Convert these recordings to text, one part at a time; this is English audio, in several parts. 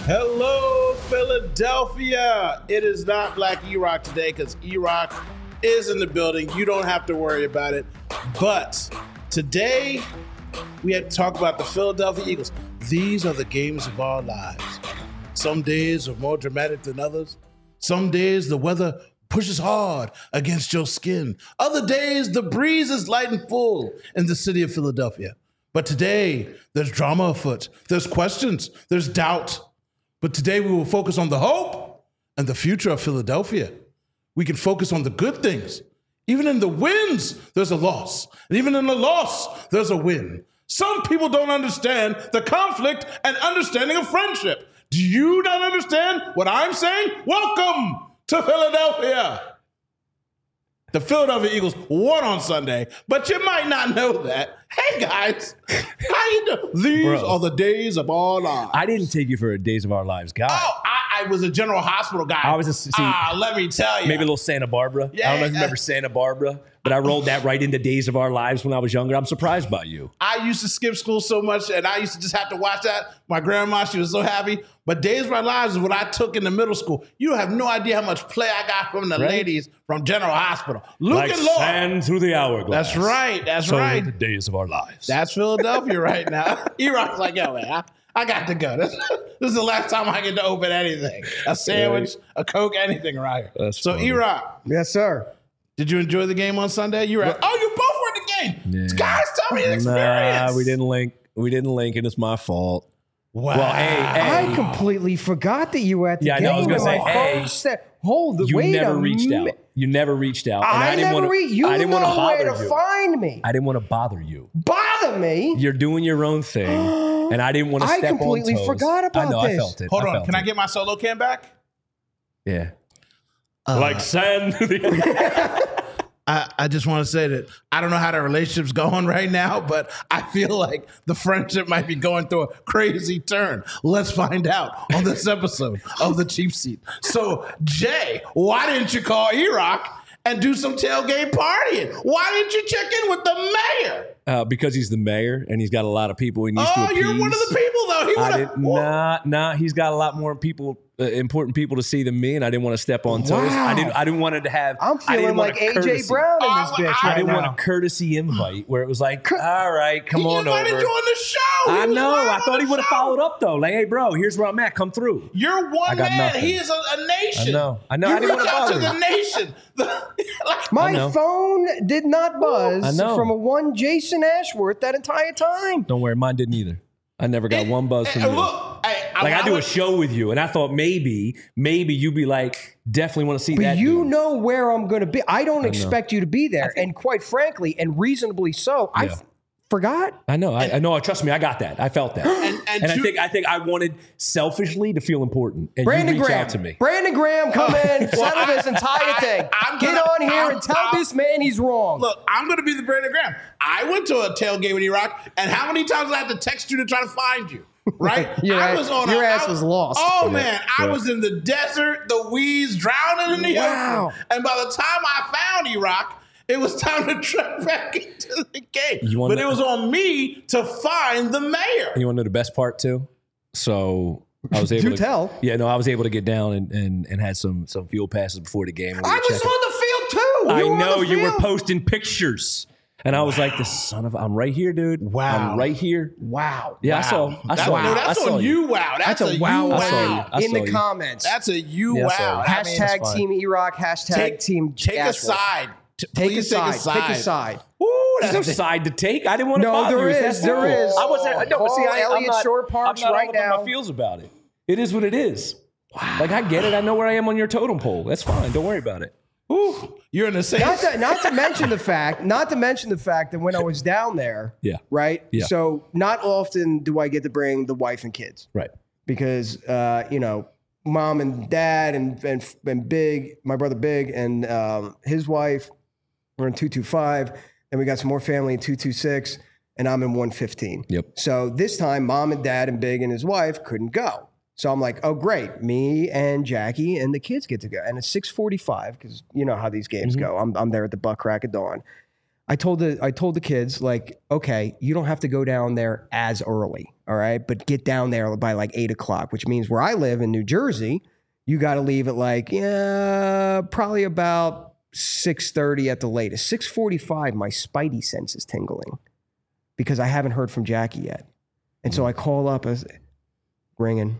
Hello, Philadelphia. It is not Black E-Rock today because E-Rock is in the building. You don't have to worry about it. But today, we had to talk about the Philadelphia Eagles. These are the games of our lives. Some days are more dramatic than others. Some days the weather pushes hard against your skin. Other days the breeze is light and full in the city of Philadelphia. But today, there's drama afoot. There's questions. There's doubt. But today we will focus on the hope and the future of Philadelphia. We can focus on the good things. Even in the wins, there's a loss. And even in the loss, there's a win. Some people don't understand the conflict and understanding of friendship. Do you not understand what I'm saying? Welcome to Philadelphia. The Philadelphia Eagles won on Sunday, but you might not know that. Hey, guys, how you doing? These are the days of our lives. I didn't take you for a Days of Our Lives guy. Oh, I was a General Hospital guy. I was just, let me tell you. Maybe a little Santa Barbara. Yeah, I don't know if you remember Santa Barbara, but I rolled that right into Days of Our Lives when I was younger. I'm surprised by you. I used to skip school so much, and I used to just have to watch that. My grandma, she was so happy. But Days of Our Lives is what I took in the middle school. You have no idea how much play I got from the ladies from General Hospital. Luke like and Laura. sand through the hourglass. That's right. That's so right. The Days of Our Lives. That's Philadelphia right now. E-Rock's like, yo, man, I got to go. This is the last time I get to open anything. A sandwich, a Coke, anything right here. That's so, funny. E-Rock. Yes, sir. Did you enjoy the game on Sunday? You were you both were at the game. Yeah. Guys, tell me the experience. Nah, we didn't link, and it's my fault. Wow. Well, hey. I completely forgot that you were at the game. Yeah, I know. I was going to say, My hey. phone said, hold it. You Wait never a reached minute. out. You never reached out. And I didn't never wanna, reached. You I didn't want to know bother where to you. find me. I didn't want to bother you. Bother me? You're doing your own thing, and I didn't want to step on toes. I completely forgot about I know. this. I felt it. Hold on. Can I get my solo cam back? Yeah. Like sand. I just want to say that I don't know how the relationship's going right now, but I feel like the friendship might be going through a crazy turn. Let's find out on this episode of The Cheap Seat. So, Jay, why didn't you call E-Rock and do some tailgate partying? Why didn't you check in with the mayor? Because he's the mayor and he's got a lot of people he needs to appease. Oh, you're one of the people, though. He's got a lot more people, important people to see than me, and I didn't want to step on toes. Wow. I didn't want it to have. I'm feeling like AJ Brown in this bitch I right didn't now. want a courtesy invite where it was like, all right, come on over. He invited you on the show. I know. I thought he would have folled up though. Like, hey, bro, here's where I'm at. Come through. You're one man. Nothing. He is a nation. I know. You I didn't want reach to out bother to the him. nation. My phone did not buzz know. from a one Jason Ashworth that entire time. Don't worry, mine didn't either. I never got one buzz from you. Look, I do a show with you, and I thought maybe you'd be like, definitely want to see that. But you dude. know where I'm going to be. I don't expect you to be there. And quite frankly, and reasonably so, I forgot. I know. I know. Trust me, I got that. I felt that. And I think I wanted selfishly to feel important. And Brandon you reach Graham. out to me. Brandon Graham, come in, settle this entire thing. Get on here and tell this man he's wrong. Look, I'm going to be the Brandon Graham. I went to a tailgate with E-Rock, and how many times did I have to text you to try to find you? Right? Your ass was lost. Oh, man. I was in the desert, the weeds, drowning in the ocean. And by the time I found E-Rock, it was time to trek back into the game. But it was on me to find the mayor. You want to know the best part, too? So I was able Do to tell. Yeah, no, I was able to get down and had some fuel passes before the game. I was on the field, too. I know. You were posting pictures. And I was like, I'm right here, dude. Wow. I'm right here. Wow. Yeah, wow. I saw you. That's on you. Wow. That's a wow. I in saw the you. comments. That's a you. Yeah, Wow. Hashtag Team E-Rock. Hashtag Team Take a Ashworth. side. Take a Please side. take Take a side. Ooh, there's no side to take. I didn't want to No, bother there you. is. There is. I wasn't. No, but see, Call I'm Elliott not. Shore Parks I'm not right all up in now. my feels about it. It is what it is. Wow. Like I get it. I know where I am on your totem pole. That's fine. Don't worry about it. Ooh, you're in the same. Not to mention the fact that when I was down there, right? Yeah. So not often do I get to bring the wife and kids, Right. because mom and dad and Big, my brother Big, and his wife were in 225, and we got some more family in 226, and I'm in 115. Yep. So this time, mom and dad and Big and his wife couldn't go. So I'm like, oh, great. Me and Jackie and the kids get to go. And it's 6:45 because you know how these games go. I'm there at the butt crack of dawn. I told the kids, like, okay, you don't have to go down there as early, all right? But get down there by like 8 o'clock, which means where I live in New Jersey, you got to leave at like, probably about 6:30 at the latest. 6:45, my spidey sense is tingling because I haven't heard from Jackie yet. And so I call up, ringing.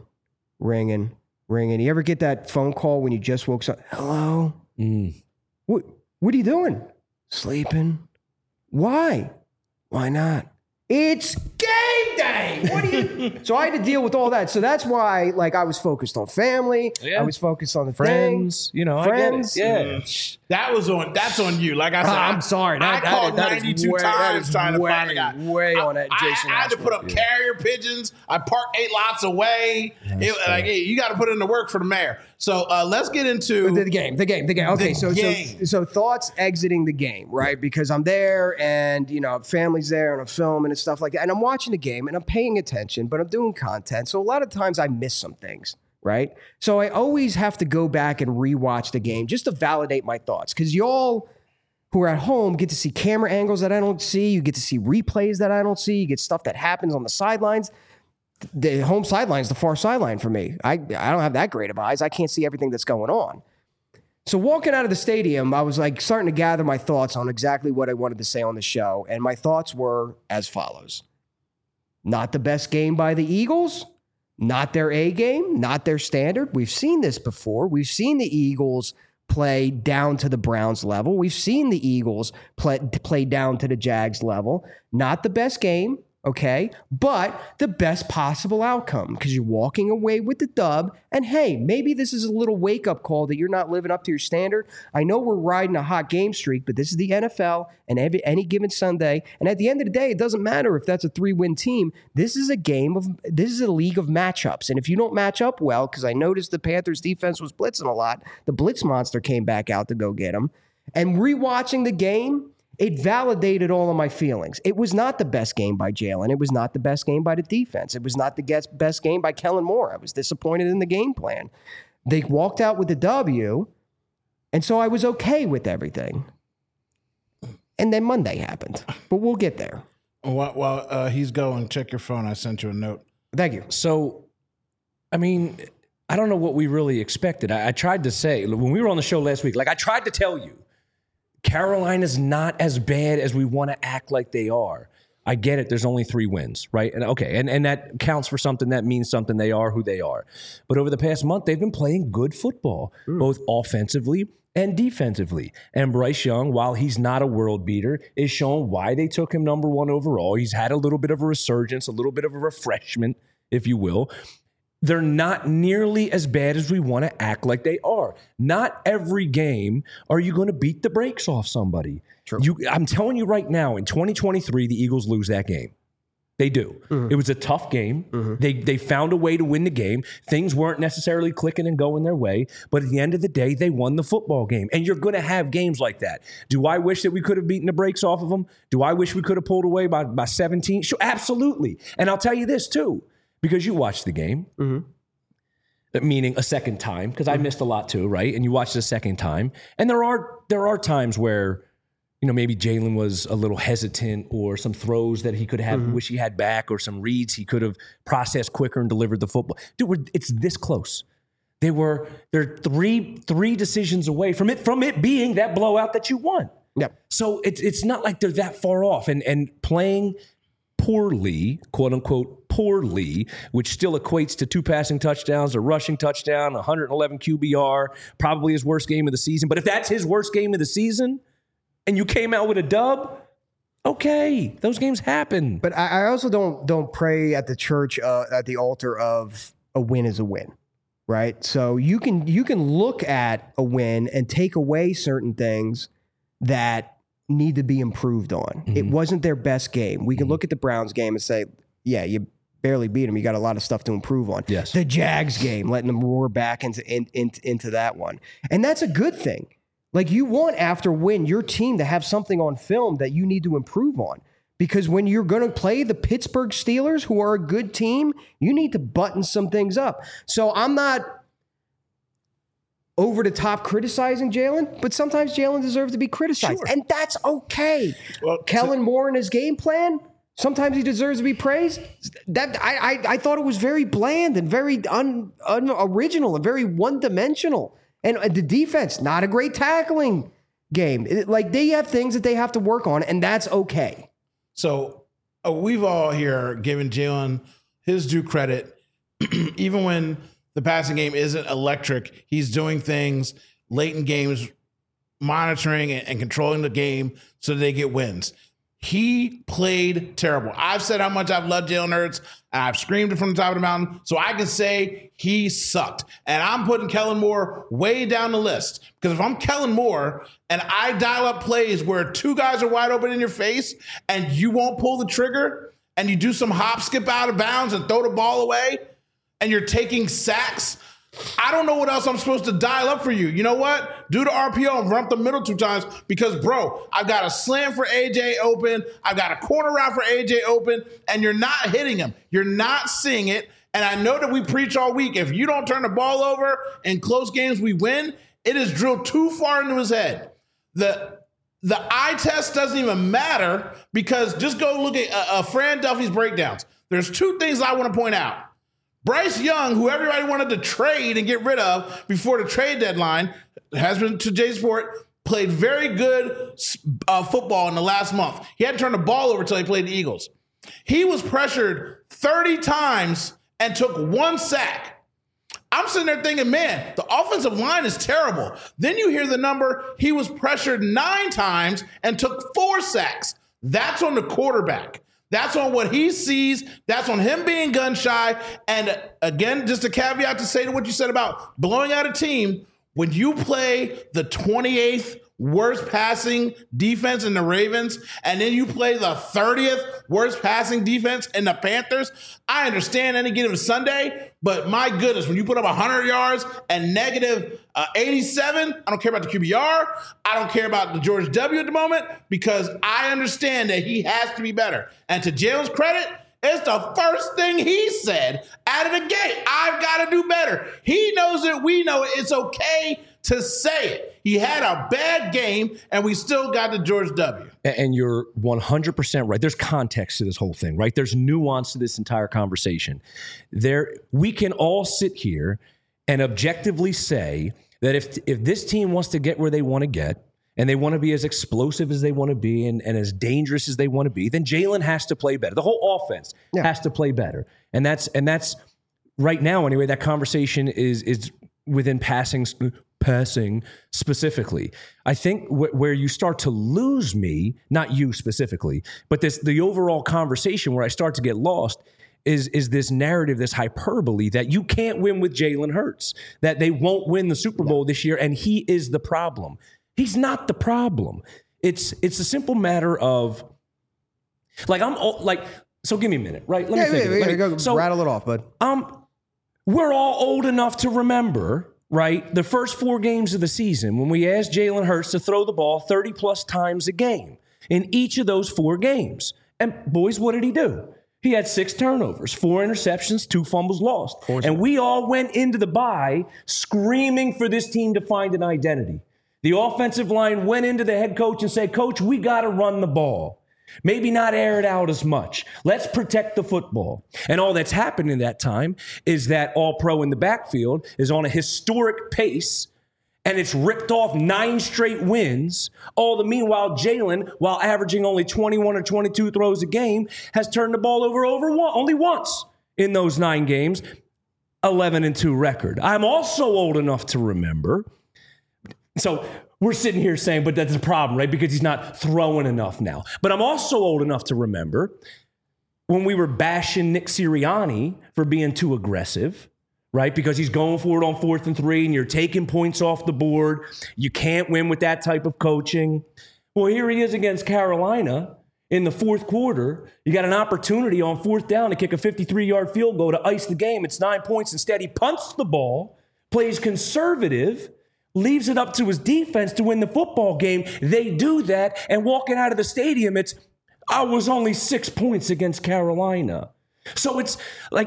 You ever get that phone call when you just woke up? Hello? What are you doing? Sleeping. Why? Why not? It's game day. What do you? So I had to deal with all that. So that's why, like, I was focused on family. Yeah. I was focused on the friends. Thing. You know, friends. I get it. Yeah, that's on you. Like I said, I'm sorry. I called 92 times trying to find a guy. Way on that, Jason. I had to put up carrier pigeons. I parked 8 lots away. Hey, you got to put in the work for the mayor. So let's get into the game. Okay, so thoughts exiting the game, right? Because I'm there, and family's there, and I'm filming and stuff like that, and I'm watching the game, and I'm paying attention, but I'm doing content. So a lot of times I miss some things, right? So I always have to go back and rewatch the game just to validate my thoughts, because y'all who are at home get to see camera angles that I don't see. You get to see replays that I don't see. You get stuff that happens on the sidelines. The home sideline is the far sideline for me. I don't have that great of eyes. I can't see everything that's going on. So walking out of the stadium, I was like starting to gather my thoughts on exactly what I wanted to say on the show. And my thoughts were as follows. Not the best game by the Eagles. Not their A game. Not their standard. We've seen this before. We've seen the Eagles play down to the Browns level. We've seen the Eagles play down to the Jags level. Not the best game. Okay, but the best possible outcome because you're walking away with the dub. And hey, maybe this is a little wake-up call that you're not living up to your standard. I know we're riding a hot game streak, but this is the NFL and any given Sunday. And at the end of the day, it doesn't matter if that's a 3-win team. This is a league of matchups. And if you don't match up well, because I noticed the Panthers defense was blitzing a lot, the blitz monster came back out to go get them. And rewatching the game, it validated all of my feelings. It was not the best game by Jalen. It was not the best game by the defense. It was not the best game by Kellen Moore. I was disappointed in the game plan. They walked out with the W, and so I was okay with everything. And then Monday happened, but we'll get there. While he's going, check your phone. I sent you a note. Thank you. So, I mean, I don't know what we really expected. I tried to say, when we were on the show last week, like I tried to tell you, Carolina's not as bad as we want to act like they are. I get it. There's only 3 wins, right? And okay, and that counts for something. That means something. They are who they are. But over the past month, they've been playing good football, both offensively and defensively. And Bryce Young, while he's not a world beater, is showing why they took him number 1 overall. He's had a little bit of a resurgence, a little bit of a refreshment, if you will. They're not nearly as bad as we want to act like they are. Not every game are you going to beat the brakes off somebody. True. I'm telling you right now, in 2023, the Eagles lose that game. They do. Mm-hmm. It was a tough game. Mm-hmm. They found a way to win the game. Things weren't necessarily clicking and going their way, but at the end of the day, they won the football game. And you're going to have games like that. Do I wish that we could have beaten the brakes off of them? Do I wish we could have pulled away by 17? Sure, absolutely. And I'll tell you this too. Because you watched the game, meaning a second time, because I missed a lot too, right? And you watched it a second time. And there are times where, maybe Jalen was a little hesitant or some throws that he could have, wish he had back, or some reads he could have processed quicker and delivered the football. Dude, it's this close. They're three decisions away from it being that blowout that you won. Yep. So it's not like they're that far off and playing poorly, quote unquote, poorly, which still equates to 2 passing touchdowns, a rushing touchdown, 111 QBR, probably his worst game of the season. But if that's his worst game of the season and you came out with a dub, okay, those games happen. But I also don't pray at the church, at the altar of a win is a win, right? So you can look at a win and take away certain things that need to be improved on. It wasn't their best game. We can look at the Browns game and say, yeah, you barely beat them. You got a lot of stuff to improve on. Yes. The Jags game, letting them roar back into that one. And that's a good thing. Like, you want after win your team to have something on film that you need to improve on. Because when you're going to play the Pittsburgh Steelers, who are a good team, you need to button some things up. So I'm not over the top criticizing Jalen, but sometimes Jalen deserves to be criticized, and that's okay. Well, Kellen Moore and his game plan, sometimes he deserves to be praised. That I thought it was very bland and very unoriginal and very one-dimensional. And the defense, not a great tackling game. They have things that they have to work on, and that's okay. So we've all here given Jalen his due credit, even when the passing game isn't electric. He's doing things late in games, monitoring and controlling the game so that they get wins. He played terrible. I've said how much I've loved Jalen Hurts, and I've screamed it from the top of the mountain, so I can say he sucked. And I'm putting Kellen Moore way down the list, because if I'm Kellen Moore and I dial up plays where two guys are wide open in your face and you won't pull the trigger and you do some hop, skip out of bounds and throw the ball away and you're taking sacks, I don't know what else I'm supposed to dial up for you. You know what? Do the RPO and run up the middle 2 times because, bro, I've got a slant for AJ open. I've got a corner route for AJ open, and you're not hitting him. You're not seeing it. And I know that we preach all week. If you don't turn the ball over in close games, we win. It is drilled too far into his head. The eye test doesn't even matter, because just go look at Fran Duffy's breakdowns. There's 2 things I want to point out. Bryce Young, who everybody wanted to trade and get rid of before the trade deadline, has been to Jay Sport, played very good football in the last month. He hadn't turned the ball over until he played the Eagles. He was pressured 30 times and took 1 sack. I'm sitting there thinking, man, the offensive line is terrible. Then you hear the number, he was pressured 9 times and took 4 sacks. That's on the quarterback. That's on what he sees. That's on him being gun shy. And again, just a caveat to say to what you said about blowing out a team, when you play the 28th worst passing defense in the Ravens, and then you play the 30th worst passing defense in the Panthers, I understand any given Sunday, but my goodness, when you put up 100 yards and negative 87, I don't care about the QBR. I don't care about the George W. at the moment, because I understand that he has to be better. And to Jalen's credit, it's the first thing he said out of the gate. I've got to do better. He knows it. We know it. It's okay to say it. He had a bad game, and we still got the George W. And you're 100% right. There's context to this whole thing, right? There's nuance to this entire conversation. We can all sit here and objectively say that if this team wants to get where they want to get, and they want to be as explosive as they want to be and as dangerous as they want to be, then Jalen has to play better. The whole offense has to play better. And that's right now, anyway, that conversation is within passing specifically. I think where you start to lose me, not you specifically, but the overall conversation where I start to get lost is this narrative, this hyperbole that you can't win with Jalen Hurts, that they won't win the Super Bowl this year, and he is the problem. He's not the problem. It's a simple matter of, so give me a minute, right? Let me think. Go rattle it off, bud. We're all old enough to remember, right, the first 4 games of the season when we asked Jalen Hurts to throw the ball 30-plus times a game in each of those 4 games. And boys, what did he do? He had 6 turnovers, 4 interceptions, 2 fumbles lost. And we all went into the bye screaming for this team to find an identity. The offensive line went into the head coach and said, Coach, we got to run the ball. Maybe not air it out as much. Let's protect the football. And all that's happened in that time is that All-Pro in the backfield is on a historic pace, and it's ripped off 9 straight wins. All the meanwhile, Jalen, while averaging only 21 or 22 throws a game, has turned the ball over only once in those 9 games, 11-2 record. I'm also old enough to remember. So we're sitting here saying, but that's a problem, right? Because he's not throwing enough now. But I'm also old enough to remember when we were bashing Nick Sirianni for being too aggressive, right? Because he's going for it on 4th and 3, and you're taking points off the board. You can't win with that type of coaching. Well, here he is against Carolina in the 4th quarter. You got an opportunity on 4th down to kick a 53-yard field goal to ice the game. It's 9 points. Instead, he punts the ball, plays conservative, leaves it up to his defense to win the football game. They do that, and walking out of the stadium, I was only 6 points against Carolina. So it's like,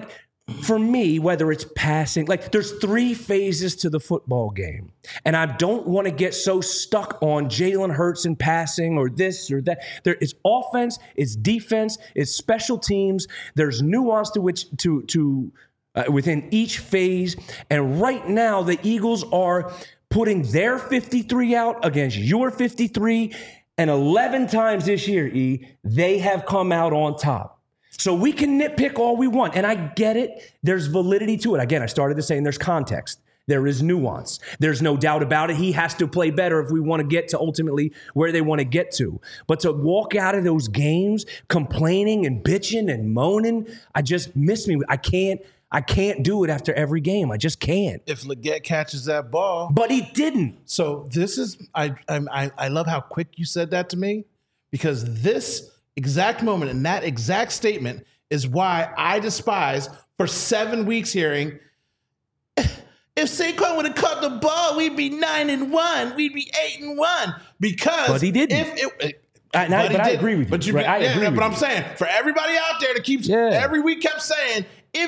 for me, whether it's passing, like there's 3 phases to the football game. And I don't want to get so stuck on Jalen Hurts and passing or this or that. There is offense, it's defense, it's special teams. There's nuance to which within each phase. And right now, the Eagles are putting their 53 out against your 53. And 11 times this year, E, they have come out on top. So we can nitpick all we want. And I get it. There's validity to it. Again, I started to saying there's context. There is nuance. There's no doubt about it. He has to play better if we want to get to ultimately where they want to get to. But to walk out of those games complaining and bitching and moaning, I just miss me. I can't do it after every game. I just can't. If Leggett catches that ball. But he didn't. So this is, I love how quick you said that to me, because this exact moment and that exact statement is why I despise for 7 weeks hearing, if Saquon would have caught the ball, we'd be 9-1, we'd be 8-1. Because but he didn't. I agree with you. But right? I agree with I'm saying for everybody out there that keeps every week kept saying,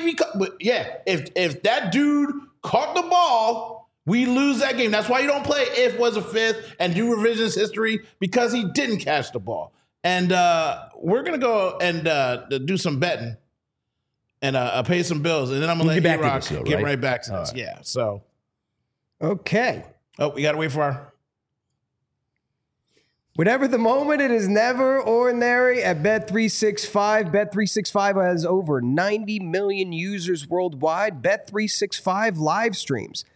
if that dude caught the ball, we lose that game. That's why you don't play if was a fifth and do revisionist history, because he didn't catch the ball. And we're going to go and do some betting and pay some bills. And then I'm going to let E-Rock get right back to this. Right. Yeah, so. Okay. Oh, we got to wait for our. Whatever the moment, it is never ordinary at Bet365. Bet365 has over 90 million users worldwide. Bet365 live streams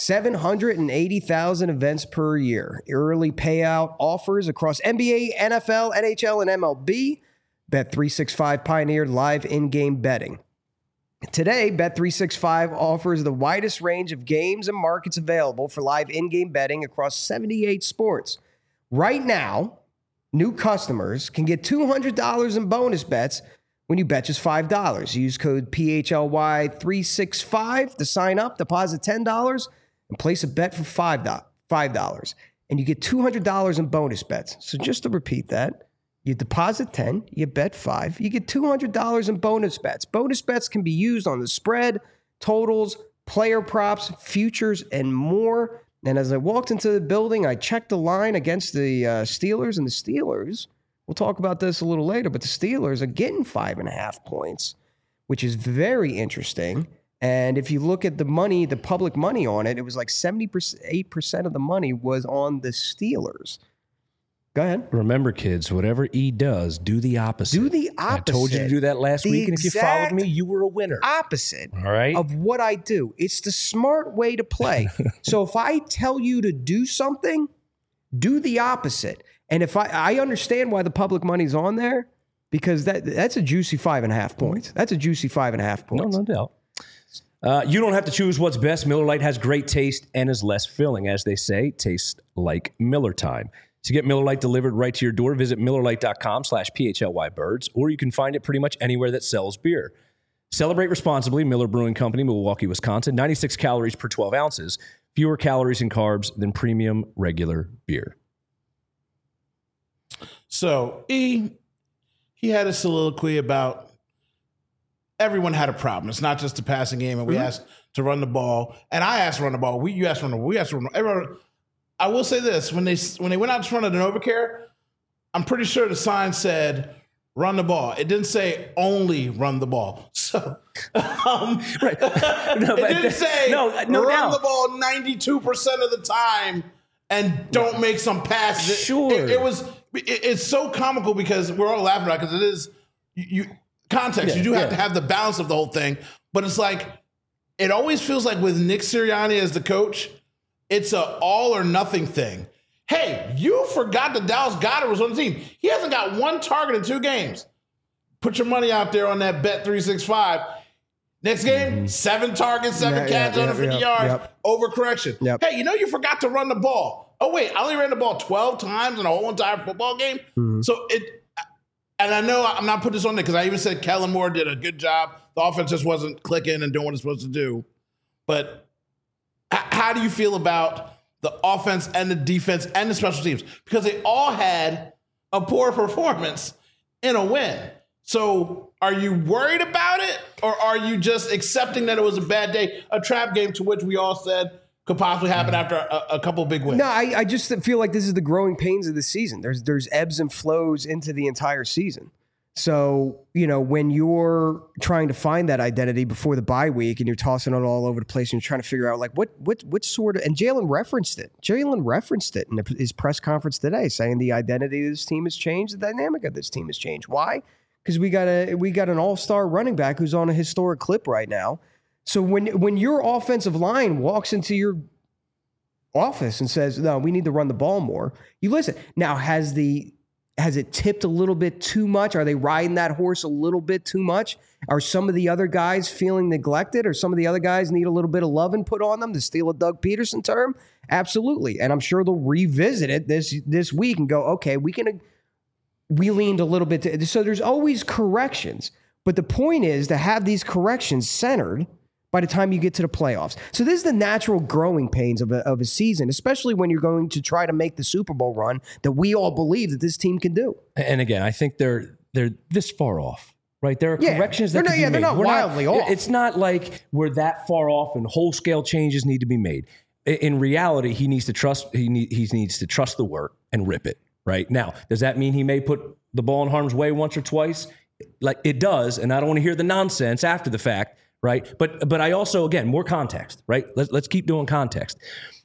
780,000 events per year. Early payout offers across NBA, NFL, NHL, and MLB. Bet365 pioneered live in-game betting. Today, Bet365 offers the widest range of games and markets available for live in-game betting across 78 sports. Right now, new customers can get $200 in bonus bets when you bet just $5. Use code PHLY365 to sign up, deposit $10, and place a bet for $5. And you get $200 in bonus bets. So just to repeat that, you deposit 10, you bet 5, you get $200 in bonus bets. Bonus bets can be used on the spread, totals, player props, futures, and more. And as I walked into the building, I checked the line against the Steelers, and the Steelers, we'll talk about this a little later, but the Steelers are getting 5.5 points, which is very interesting. And if you look at the money, the public money on it, it was like 78% of the money was on the Steelers. Go ahead. Remember, kids, whatever E does, do the opposite. Do the opposite. I told you to do that last week, and if you followed me, you were a winner. Opposite all right, of what I do. It's the smart way to play. So if I tell you to do something, do the opposite. And if I understand why the public money's on there, because that's a juicy 5.5 points. That's a juicy 5.5 points. No doubt. You don't have to choose what's best. Miller Lite has great taste and is less filling. As they say, tastes like Miller time. To get Miller Lite delivered right to your door, visit MillerLite.com/PHLYBirds, or you can find it pretty much anywhere that sells beer. Celebrate responsibly. Miller Brewing Company, Milwaukee, Wisconsin. 96 calories per 12 ounces. Fewer calories and carbs than premium regular beer. So, he had a soliloquy about everyone had a problem. It's not just the passing game, and we asked to run the ball. And I asked to run the ball. You asked to run the ball. We asked to run the ball. I will say this. When they went out in front of the NovaCare, I'm pretty sure the sign said, run the ball. It didn't say only run the ball. So right. It didn't say run the ball 92% of the time and don't make some passes. Sure. It's so comical because we're all laughing about it, because it is context. You do have to have the balance of the whole thing. But it's like, it always feels like with Nick Sirianni as the coach, it's a all or nothing thing. Hey, you forgot that Dallas Goedert was on the team. He hasn't got one target in 2 games. Put your money out there on that Bet365. Next game, 7 targets, 7 catches, 150 yards, overcorrection. Yep. Hey, you forgot to run the ball. Oh, wait, I only ran the ball 12 times in a whole entire football game? So and I know I'm not putting this on there because I even said Kellen Moore did a good job. The offense just wasn't clicking and doing what it's supposed to do. But how do you feel about the offense and the defense and the special teams? Because they all had a poor performance in a win. So are you worried about it, or are you just accepting that it was a bad day, a trap game to which we all said could possibly happen after a couple of big wins? No, I just feel like this is the growing pains of the season. There's ebbs and flows into the entire season. So, when you're trying to find that identity before the bye week and you're tossing it all over the place and you're trying to figure out like what sort of, and Jalen referenced it in his press conference today, saying the identity of this team has changed, the dynamic of this team has changed. Why? Because we got an all-star running back who's on a historic clip right now. So when your offensive line walks into your office and says, no, we need to run the ball more, you listen. Now, has it tipped a little bit too much? Are they riding that horse a little bit too much? Are some of the other guys feeling neglected, or some of the other guys need a little bit of loving put on them, to steal a Doug Peterson term? Absolutely. And I'm sure they'll revisit it this week and go, okay, we leaned a little bit. So there's always corrections. But the point is to have these corrections centered by the time you get to the playoffs. So this is the natural growing pains of a season, especially when you're going to try to make the Super Bowl run that we all believe that this team can do. And again, I think they're this far off, right? There are corrections that can be made. They're not wildly off. It's not like we're that far off and whole scale changes need to be made. In reality, he needs to trust. He needs to trust the work and rip it. Right now, does that mean he may put the ball in harm's way once or twice? Like it does, and I don't want to hear the nonsense after the fact. Right. But I also, again, more context, right? Let's keep doing context.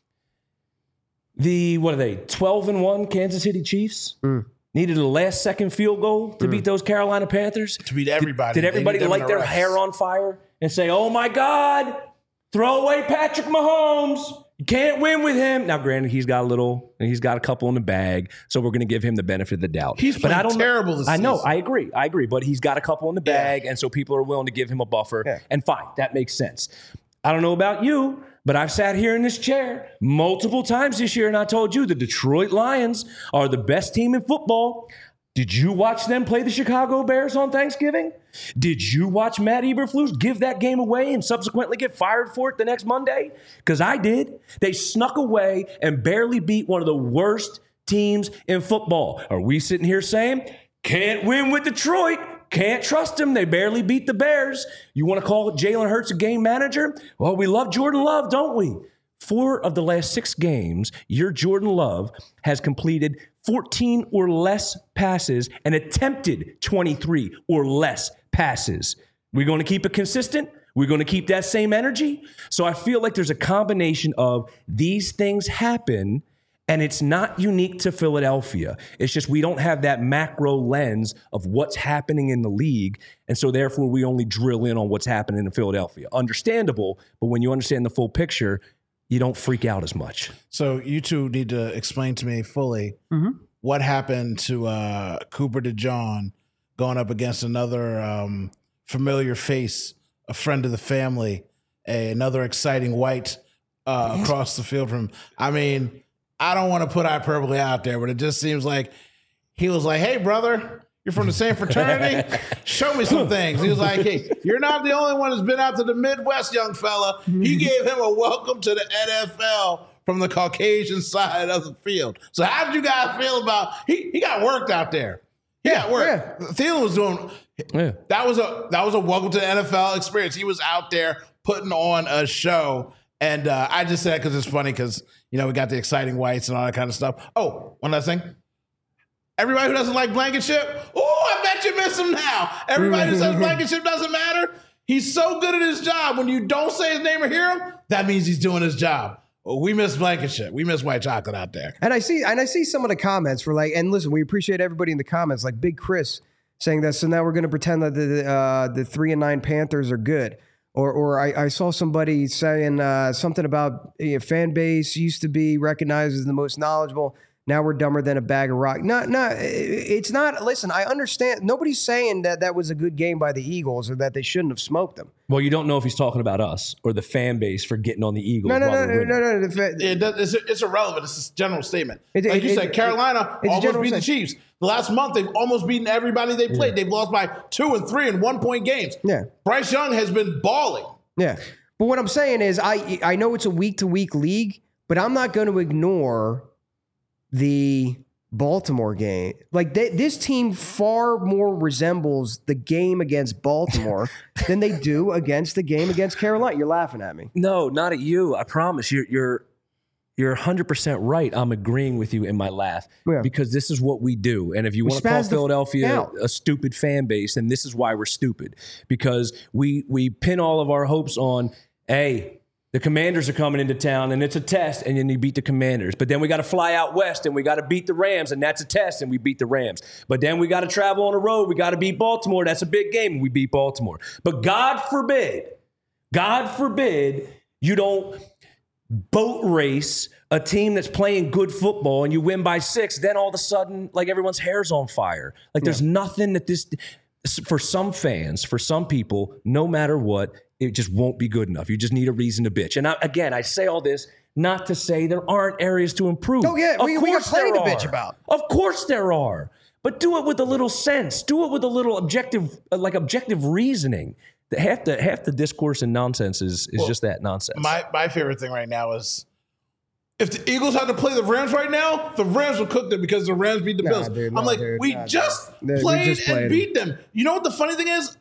What are they? 12-1 Kansas City Chiefs needed a last second field goal to beat those Carolina Panthers. To beat everybody. Did everybody light their hair on fire and say, oh my God, throw away Patrick Mahomes. You can't win with him. Now, granted, he's got a couple in the bag, so we're going to give him the benefit of the doubt. He's playing terrible this season. I know, I agree, but he's got a couple in the bag, and so people are willing to give him a buffer, and fine, that makes sense. I don't know about you, but I've sat here in this chair multiple times this year, and I told you the Detroit Lions are the best team in football. Did you watch them play the Chicago Bears on Thanksgiving? Did you watch Matt Eberflus give that game away and subsequently get fired for it the next Monday? Because I did. They snuck away and barely beat one of the worst teams in football. Are we sitting here saying, can't win with Detroit, can't trust them, they barely beat the Bears? You want to call Jalen Hurts a game manager? Well, we love Jordan Love, don't we? 4 of the last 6 games, your Jordan Love has completed 14 or less passes and attempted 23 or less passes. We're going to keep it consistent. We're going to keep that same energy. So I feel like there's a combination of these things happen, and it's not unique to Philadelphia. It's just we don't have that macro lens of what's happening in the league, and so therefore we only drill in on what's happening in Philadelphia. Understandable, but when you understand the full picture, you don't freak out as much. So you two need to explain to me fully what happened to Cooper DeJean going up against another familiar face, a friend of the family, another exciting white across the field from him. I mean, I don't want to put hyperbole out there, but it just seems like he was like, hey, brother, you're from the same fraternity? Show me some things. He was like, hey, you're not the only one who's been out to the Midwest, young fella. He gave him a welcome to the NFL from the Caucasian side of the field. So how did you guys feel about he got worked out there? He got worked. Thielen was doing that was a welcome to the NFL experience. He was out there putting on a show. And I just said because it's funny because, we got the exciting whites and all that kind of stuff. Oh, one last thing. Everybody who doesn't like Blankenship, I bet you miss him now. Everybody who says Blankenship doesn't matter, he's so good at his job. When you don't say his name or hear him, that means he's doing his job. Well, we miss Blankenship. We miss white chocolate out there. And I see some of the comments for and listen, we appreciate everybody in the comments, like Big Chris saying that. So now we're going to pretend that the 3-9 Panthers are good. Or I saw somebody saying something about fan base used to be recognized as the most knowledgeable. Now we're dumber than a bag of rock. No, it's not. Listen, I understand. Nobody's saying that was a good game by the Eagles or that they shouldn't have smoked them. Well, you don't know if he's talking about us or the fan base for getting on the Eagles. No. It's irrelevant. It's a general statement. Like you said, Carolina almost beat the Chiefs. The last month, they've almost beaten everybody they played. They've lost by 2 and 3 and 1-point games. Yeah. Bryce Young has been balling. Yeah. But what I'm saying is I know it's a week-to-week league, but I'm not going to ignore the Baltimore game. Like this team far more resembles the game against Baltimore than they do against the game against Carolina. You're laughing at me. No, not at you. I promise. You're 100% right. I'm agreeing with you in my laugh because this is what we do. And if you want to call Philadelphia a stupid fan base, then this is why we're stupid, because we pin all of our hopes on, hey, the Commanders are coming into town, and it's a test, and then you beat the Commanders. But then we got to fly out west, and we got to beat the Rams, and that's a test, and we beat the Rams. But then we got to travel on the road. We got to beat Baltimore. That's a big game, and we beat Baltimore. But God forbid, you don't boat race a team that's playing good football, and you win by 6. Then all of a sudden, like, everyone's hair's on fire. Like, there's nothing that this – for some fans, for some people, no matter what, it just won't be good enough. You just need a reason to bitch. And I say all this not to say there aren't areas to improve. Oh, yeah. We got plenty to bitch about. Of course there are. But do it with a little sense. Do it with a little objective reasoning. Half the discourse and nonsense is just that nonsense. My favorite thing right now is if the Eagles had to play the Rams right now, the Rams would cook them because the Rams beat the Bills. We just played and beat them. You know what the funny thing is?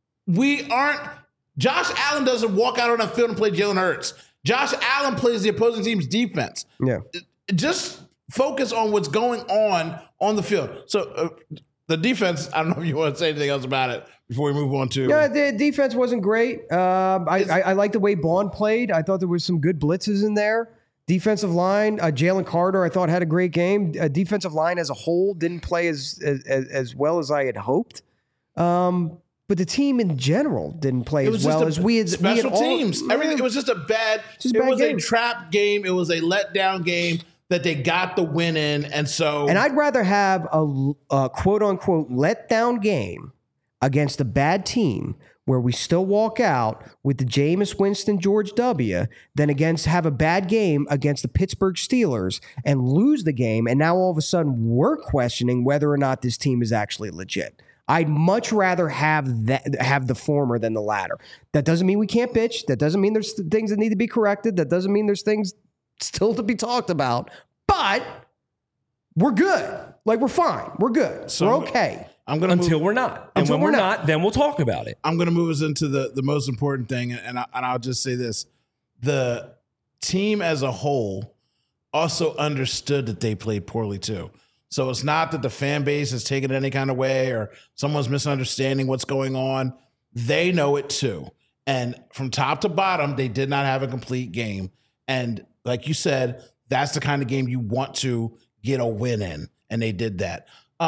Josh Allen doesn't walk out on the field and play Jalen Hurts. Josh Allen plays the opposing team's defense. Yeah. Just focus on what's going on the field. So the defense, I don't know if you want to say anything else about it before we move on to. Yeah, the defense wasn't great. I like the way Bond played. I thought there was some good blitzes in there. Defensive line, Jalen Carter, I thought had a great game. Defensive line as a whole didn't play as well as I had hoped. But the team in general didn't play as well as we had. Special teams, everything. It was just a bad. It was a trap game. It was a letdown game that they got the win in, and I'd rather have a quote unquote letdown game against a bad team where we still walk out with the Jameis Winston George W. than have a bad game against the Pittsburgh Steelers and lose the game, and now all of a sudden we're questioning whether or not this team is actually legit. I'd much rather have the former than the latter. That doesn't mean we can't bitch. That doesn't mean there's things that need to be corrected. That doesn't mean there's things still to be talked about. But we're good. Like, we're fine. We're good. So we're okay. Until we're not. And when we're not, then we'll talk about it. I'm going to move us into the most important thing, and I'll just say this. The team as a whole also understood that they played poorly too. So it's not that the fan base is taking it any kind of way or someone's misunderstanding what's going on. They know it too. And from top to bottom, they did not have a complete game. And like you said, that's the kind of game you want to get a win in. And they did that.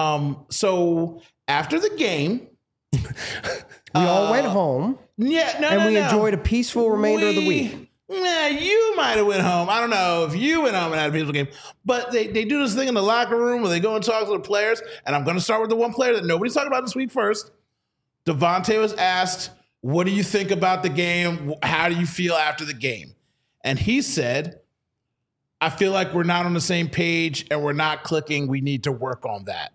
So after the game, we all went home. Yeah, we enjoyed a peaceful remainder of the week. Yeah, you might have went home. I don't know if you went home and had a peaceful game. But they do this thing in the locker room where they go and talk to the players. And I'm going to start with the one player that nobody's talking about this week first. Devontae was asked, what do you think about the game? How do you feel after the game? And he said, I feel like we're not on the same page and we're not clicking. We need to work on that.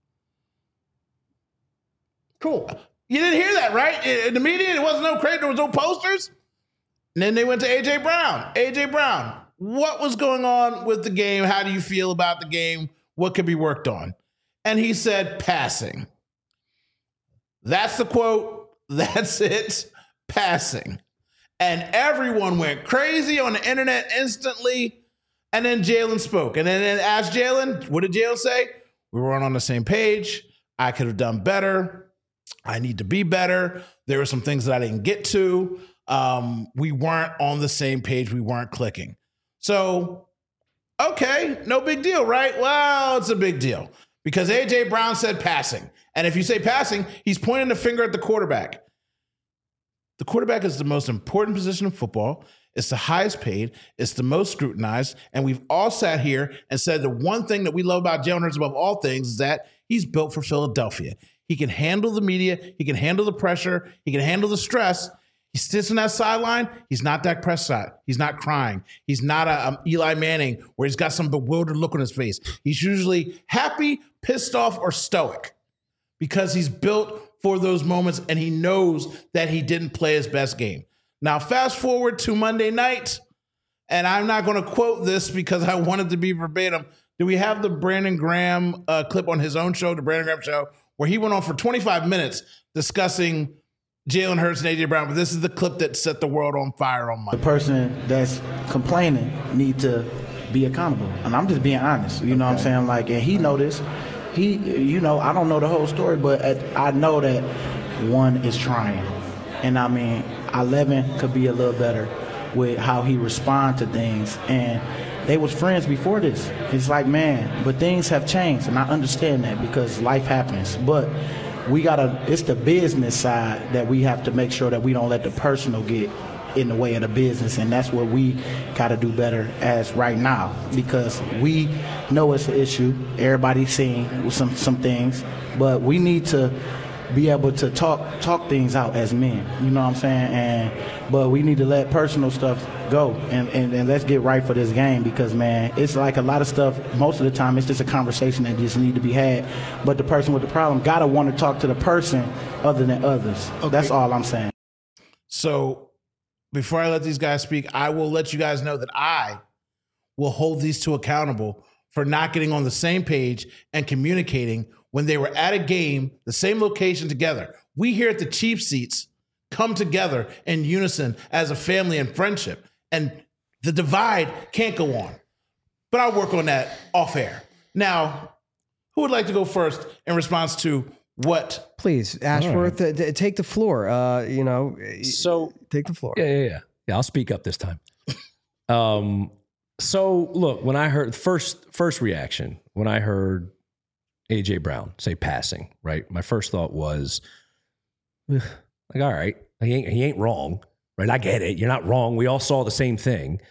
Cool. You didn't hear that, right? In the media, there wasn't no crate, there was no posters. And then they went to A.J. Brown. A.J. Brown, what was going on with the game? How do you feel about the game? What could be worked on? And he said, passing. That's the quote. That's it. Passing. And everyone went crazy on the internet instantly. And then Jalen spoke. And then asked Jalen, what did Jalen say? We weren't on the same page. I could have done better. I need to be better. There were some things that I didn't get to. We weren't on the same page. We weren't clicking. So, okay, no big deal, right? Well, it's a big deal because A.J. Brown said passing. And if you say passing, he's pointing the finger at the quarterback. The quarterback is the most important position in football. It's the highest paid. It's the most scrutinized. And we've all sat here and said the one thing that we love about Jalen Hurts above all things is that he's built for Philadelphia. He can handle the media. He can handle the pressure. He can handle the stress. He sits on that sideline. He's not Dak Prescott. He's not crying. He's not a Eli Manning where he's got some bewildered look on his face. He's usually happy, pissed off, or stoic because he's built for those moments and he knows that he didn't play his best game. Now, fast forward to Monday night, and I'm not going to quote this because I want it to be verbatim. Do we have the Brandon Graham clip on his own show, the Brandon Graham Show, where he went on for 25 minutes discussing Jalen Hurts and A.J. Brown? But this is the clip that set the world on fire on Monday. The person that's complaining need to be accountable. And I'm just being honest. You know what I'm saying? Like, and he know this. He, you know, I don't know the whole story, but I know that one is trying. And I mean, 11 could be a little better with how he respond to things. And they was friends before this. It's like, man, but things have changed, and I understand that because life happens. But it's the business side that we have to make sure that we don't let the personal get in the way of the business, and that's what we got to do better as right now, because we know it's an issue. Everybody's seeing some things, but we need to be able to talk things out as men. You know what I'm saying? But we need to let personal stuff go and let's get right for this game, because, man, it's like a lot of stuff, most of the time it's just a conversation that just need to be had, but the person with the problem got to want to talk to the person other than others. Okay. That's all I'm saying. So before I let these guys speak, I will let you guys know that I will hold these two accountable for not getting on the same page and communicating when they were at a game, the same location together. We here at the Chief Seats come together in unison as a family and friendship, and the divide can't go on. But I'll work on that off air. Now, who would like to go first in response to what? Please, Ashworth, take the floor. So take the floor. Yeah. I'll speak up this time. So look, when I heard first reaction, when I heard A.J. Brown say passing, right? My first thought was, like, all right, he ain't wrong, right? I get it. You're not wrong. We all saw the same thing.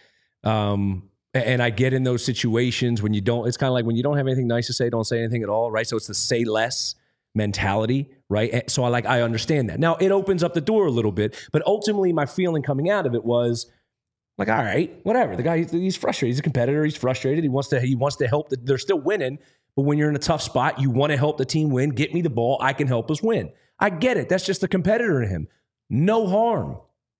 And I get in those situations when it's kind of like when you don't have anything nice to say, don't say anything at all, right? So it's the say less mentality, right? So I understand that. Now it opens up the door a little bit, but ultimately my feeling coming out of it was like, all right, whatever. The guy, he's frustrated. He's a competitor. He's frustrated. He wants to help. They're still winning. But when you're in a tough spot, you want to help the team win. Get me the ball. I can help us win. I get it. That's just the competitor in him. No harm.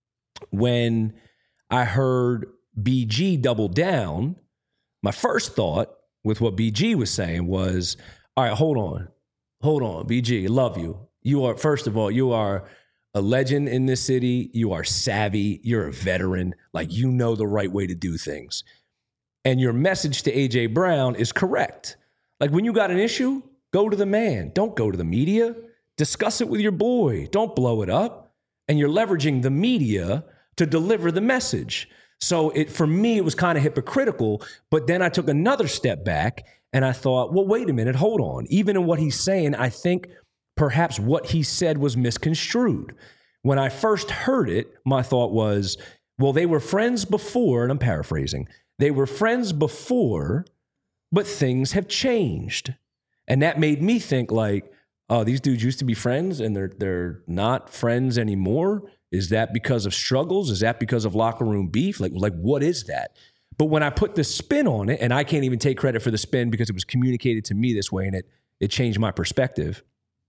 When I heard BG double down, my first thought with what BG was saying was, all right, hold on, BG, I love you. You are, first of all, you are a legend in this city. You are savvy. You're a veteran. Like, you know the right way to do things. And your message to A.J. Brown is correct. Like, when you got an issue, go to the man. Don't go to the media. Discuss it with your boy. Don't blow it up. And you're leveraging the media to deliver the message. So for me, it was kind of hypocritical. But then I took another step back and I thought, well, wait a minute, hold on. Even in what he's saying, I think perhaps what he said was misconstrued. When I first heard it, my thought was, well, they were friends before, and I'm paraphrasing. They were friends before, but things have changed. And that made me think like, oh, these dudes used to be friends and they're not friends anymore. Is that because of struggles? Is that because of locker room beef? Like what is that? But when I put the spin on it, and I can't even take credit for the spin because it was communicated to me this way and it changed my perspective.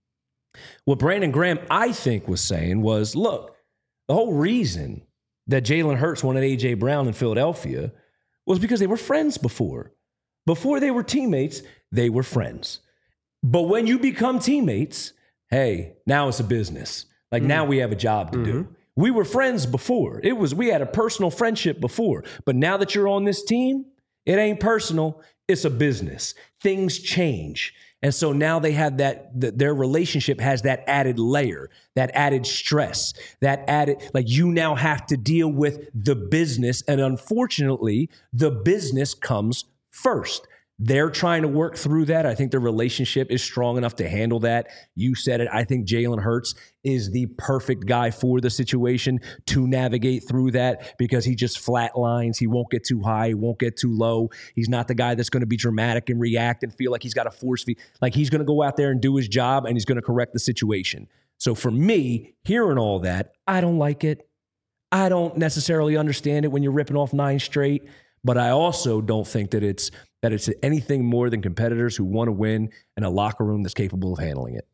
What Brandon Graham, I think, was saying was, look, the whole reason that Jalen Hurts wanted A.J. Brown in Philadelphia was because they were friends before. Before they were teammates, they were friends. But when you become teammates, hey, now it's a business. Like now we have a job to do. We were friends before. We had a personal friendship before. But now that you're on this team, it ain't personal. It's a business. Things change. And so now they have their relationship has that added layer, that added stress, that added, like you now have to deal with the business. And unfortunately, the business comes first. They're trying to work through that. I think their relationship is strong enough to handle that. You said it. I think Jalen Hurts is the perfect guy for the situation to navigate through that because he just flatlines. He won't get too high. He won't get too low. He's not the guy that's going to be dramatic and react and feel like he's got a force feed. Like he's going to go out there and do his job and he's going to correct the situation. So for me, hearing all that, I don't like it. I don't necessarily understand it when you're ripping off 9 straight, but I also don't think that it's anything more than competitors who want to win and a locker room that's capable of handling it.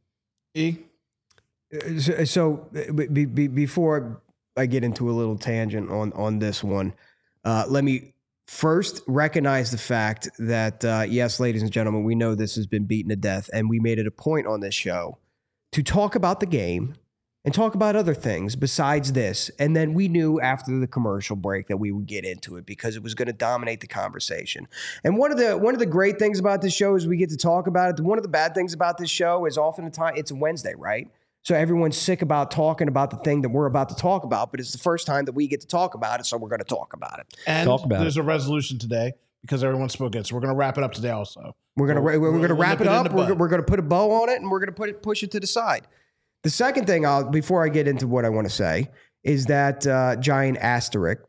So before I get into a little tangent on this one, let me first recognize the fact that, yes, ladies and gentlemen, we know this has been beaten to death, and we made it a point on this show to talk about the game and talk about other things besides this. And then we knew after the commercial break that we would get into it because it was going to dominate the conversation. And one of the great things about this show is we get to talk about it. One of the bad things about this show is often the time it's a Wednesday, right? So everyone's sick about talking about the thing that we're about to talk about, but it's the first time that we get to talk about it, so we're going to talk about it. And there's a resolution today because everyone spoke it. So we're going to wrap it up today also. We're going to wrap it up. We're going to put a bow on it, and we're going to push it to the side. The second thing, before I get into what I want to say, is that giant asterisk,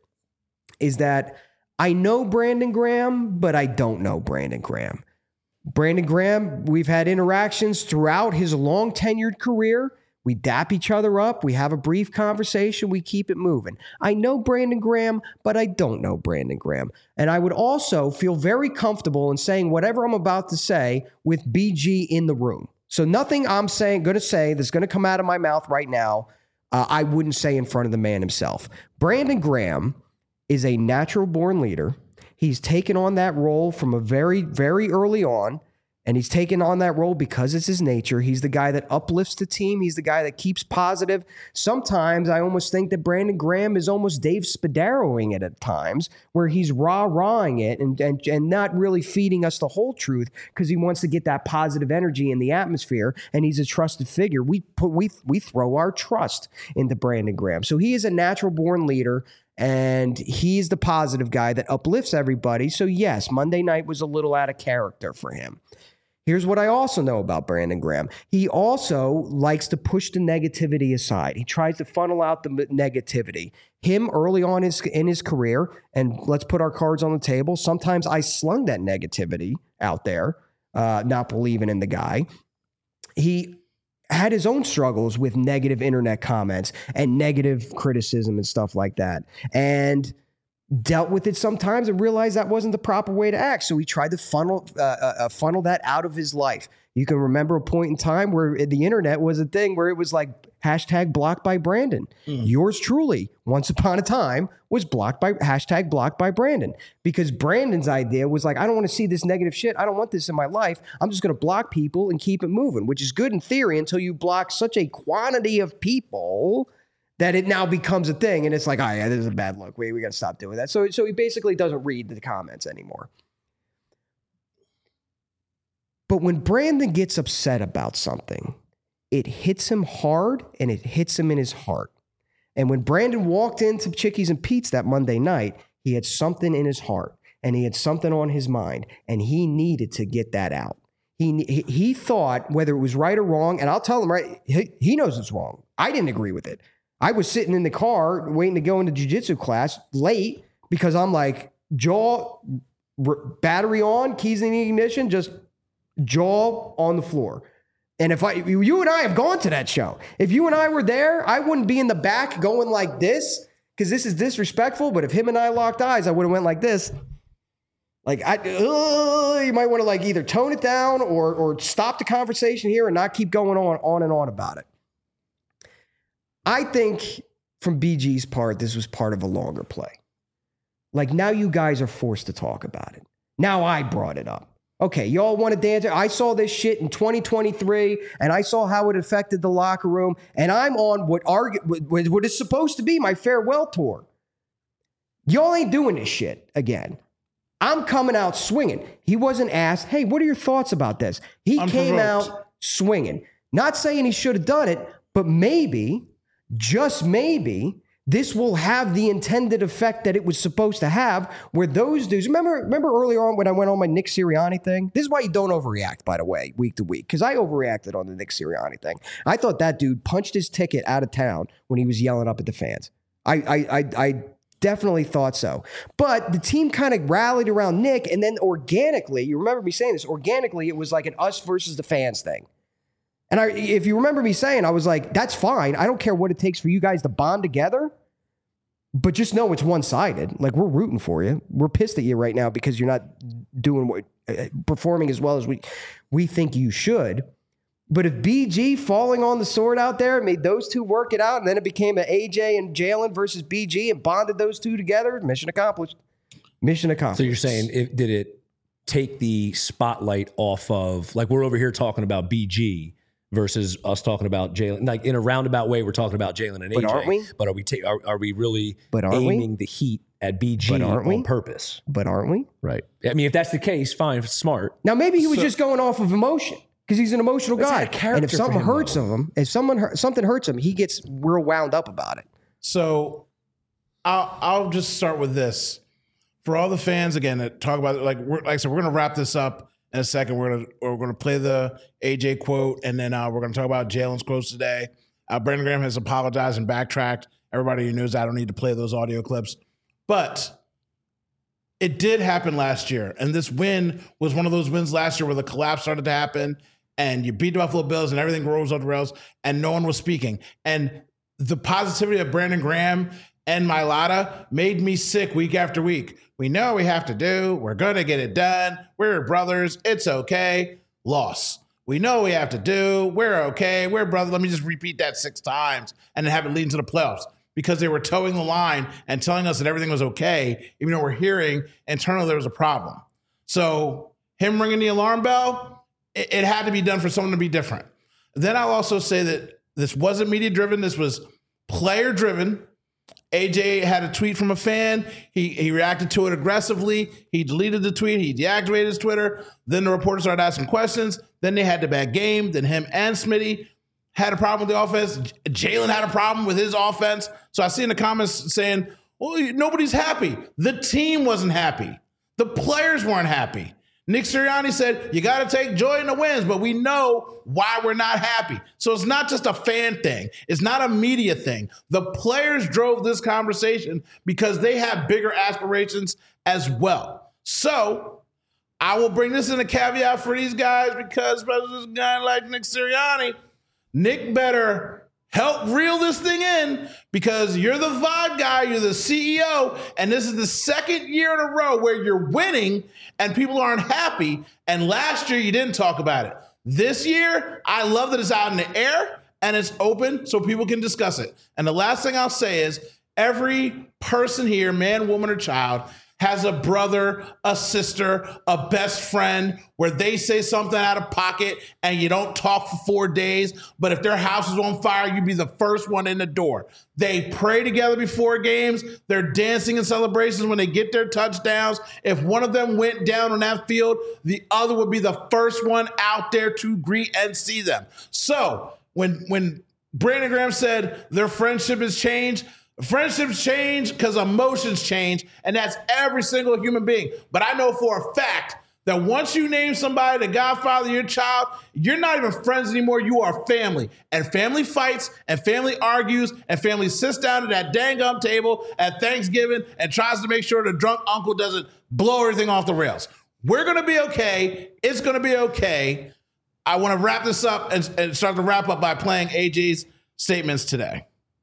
is that I know Brandon Graham, but I don't know Brandon Graham. Brandon Graham, we've had interactions throughout his long tenured career. We dap each other up. We have a brief conversation. We keep it moving. I know Brandon Graham, but I don't know Brandon Graham. And I would also feel very comfortable in saying whatever I'm about to say with BG in the room. So nothing I'm going to say that's going to come out of my mouth right now, I wouldn't say in front of the man himself. Brandon Graham is a natural born leader. He's taken on that role from a very, very early on. And he's taken on that role because it's his nature. He's the guy that uplifts the team. He's the guy that keeps positive. Sometimes I almost think that Brandon Graham is almost Dave Spaderoing it at times, where he's rah-rahing it and not really feeding us the whole truth because he wants to get that positive energy in the atmosphere, and he's a trusted figure. We throw our trust into Brandon Graham. So he is a natural-born leader, and he's the positive guy that uplifts everybody. So yes, Monday night was a little out of character for him. Here's what I also know about Brandon Graham. He also likes to push the negativity aside. He tries to funnel out the negativity. Him early on in his career, and let's put our cards on the table, sometimes I slung that negativity out there, not believing in the guy. He had his own struggles with negative internet comments and negative criticism and stuff like that. And dealt with it sometimes and realized that wasn't the proper way to act. So he tried to funnel that out of his life. You can remember a point in time where the internet was a thing where it was like hashtag blocked by Brandon. Yours truly, once upon a time, was blocked by hashtag blocked by Brandon, because Brandon's idea was like, I don't want to see this negative shit. I don't want this in my life. I'm just going to block people and keep it moving, which is good in theory until you block such a quantity of people that it now becomes a thing. And it's like, oh yeah, this is a bad look. We got to stop doing that. So he basically doesn't read the comments anymore. But when Brandon gets upset about something, it hits him hard and it hits him in his heart. And when Brandon walked into Chickies and Pete's that Monday night, he had something in his heart and he had something on his mind, and he needed to get that out. He thought, whether it was right or wrong, and I'll tell him, right, he knows it's wrong. I didn't agree with it. I was sitting in the car waiting to go into jiu-jitsu class late because I'm like, battery on, keys in the ignition, just jaw on the floor. And if you and I have gone to that show, if you and I were there, I wouldn't be in the back going like this because this is disrespectful. But if him and I locked eyes, I would have went like this. Like, you might want to like either tone it down or stop the conversation here and not keep going on and on about it. I think from BG's part, this was part of a longer play. Like, now you guys are forced to talk about it. Now I brought it up. Okay, y'all want to dance? I saw this shit in 2023, and I saw how it affected the locker room, and I'm on what is supposed to be my farewell tour. Y'all ain't doing this shit again. I'm coming out swinging. He wasn't asked, hey, what are your thoughts about this? He came out swinging. Not saying he should have done it, but maybe, just maybe, this will have the intended effect that it was supposed to have, where those dudes, remember earlier on when I went on my Nick Sirianni thing? This is why you don't overreact, by the way, week to week, because I overreacted on the Nick Sirianni thing. I thought that dude punched his ticket out of town when he was yelling up at the fans. I definitely thought so. But the team kind of rallied around Nick, and then organically, you remember me saying this, organically it was like an us versus the fans thing. And if you remember me saying, I was like, that's fine. I don't care what it takes for you guys to bond together. But just know it's one-sided. Like, we're rooting for you. We're pissed at you right now because you're not performing as well as we think you should. But if BG falling on the sword out there made those two work it out, and then it became an AJ and Jalen versus BG and bonded those two together, mission accomplished. Mission accomplished. So you're saying, did it take the spotlight off of, like, we're over here talking about BG versus us talking about Jalen? Like, in a roundabout way, we're talking about Jalen and AJ. But aren't we? But are we really But aren't aiming the heat at BG on purpose? But aren't we? Right. I mean, if that's the case, fine, smart. Now, maybe he was just going off of emotion because he's an emotional guy. And if something hurts him, something hurts him, he gets real wound up about it. So I'll just start with this. For all the fans, again, that talk about, like I said, we're going to wrap this up in a second. We're going to play the AJ quote, and then we're going to talk about Jalen's quotes today. Brandon Graham has apologized and backtracked. Everybody who knows I don't need to play those audio clips. But it did happen last year, and this win was one of those wins last year where the collapse started to happen, and you beat the Buffalo Bills, and everything rolls off the rails, and no one was speaking. And the positivity of Brandon Graham and Mailata made me sick week after week. We know we have to do. We're going to get it done. We're brothers. It's okay. Loss. We know we have to do. We're okay. We're brothers. Let me just repeat that 6 times and then have it lead into the playoffs, because they were towing the line and telling us that everything was okay, even though we're hearing internally there was a problem. So him ringing the alarm bell, it had to be done for someone to be different. Then I'll also say that this wasn't media-driven. This was player-driven. AJ had a tweet from a fan. He reacted to it aggressively. He deleted the tweet. He deactivated his Twitter. Then the reporters started asking questions. Then they had the bad game. Then him and Smitty had a problem with the offense. Jalen had a problem with his offense. So I see in the comments saying, well, nobody's happy. The team wasn't happy. The players weren't happy. Nick Sirianni said, you got to take joy in the wins, but we know why we're not happy. So it's not just a fan thing. It's not a media thing. The players drove this conversation because they have bigger aspirations as well. So I will bring this in a caveat for these guys, because this guy like Nick Sirianni, Nick better help reel this thing in, because you're the vibe guy, you're the CEO, and this is the second year in a row where you're winning and people aren't happy. And last year you didn't talk about it. This year, I love that it's out in the air and it's open so people can discuss it. And the last thing I'll say is, every person here, man, woman, or child, has a brother, a sister, a best friend where they say something out of pocket and you don't talk for 4 days, but if their house is on fire, you'd be the first one in the door. They pray together before games. They're dancing in celebrations when they get their touchdowns. If one of them went down on that field, the other would be the first one out there to greet and see them. So when Brandon Graham said their friendship has changed, friendships change because emotions change, and that's every single human being. But I know for a fact that once you name somebody the godfather of your child, you're not even friends anymore. You are family. And family fights, and family argues, and family sits down at that dang gum table at Thanksgiving and tries to make sure the drunk uncle doesn't blow everything off the rails. We're going to be okay. It's going to be okay. I want to wrap this up and start to wrap up by playing AJ's statements today.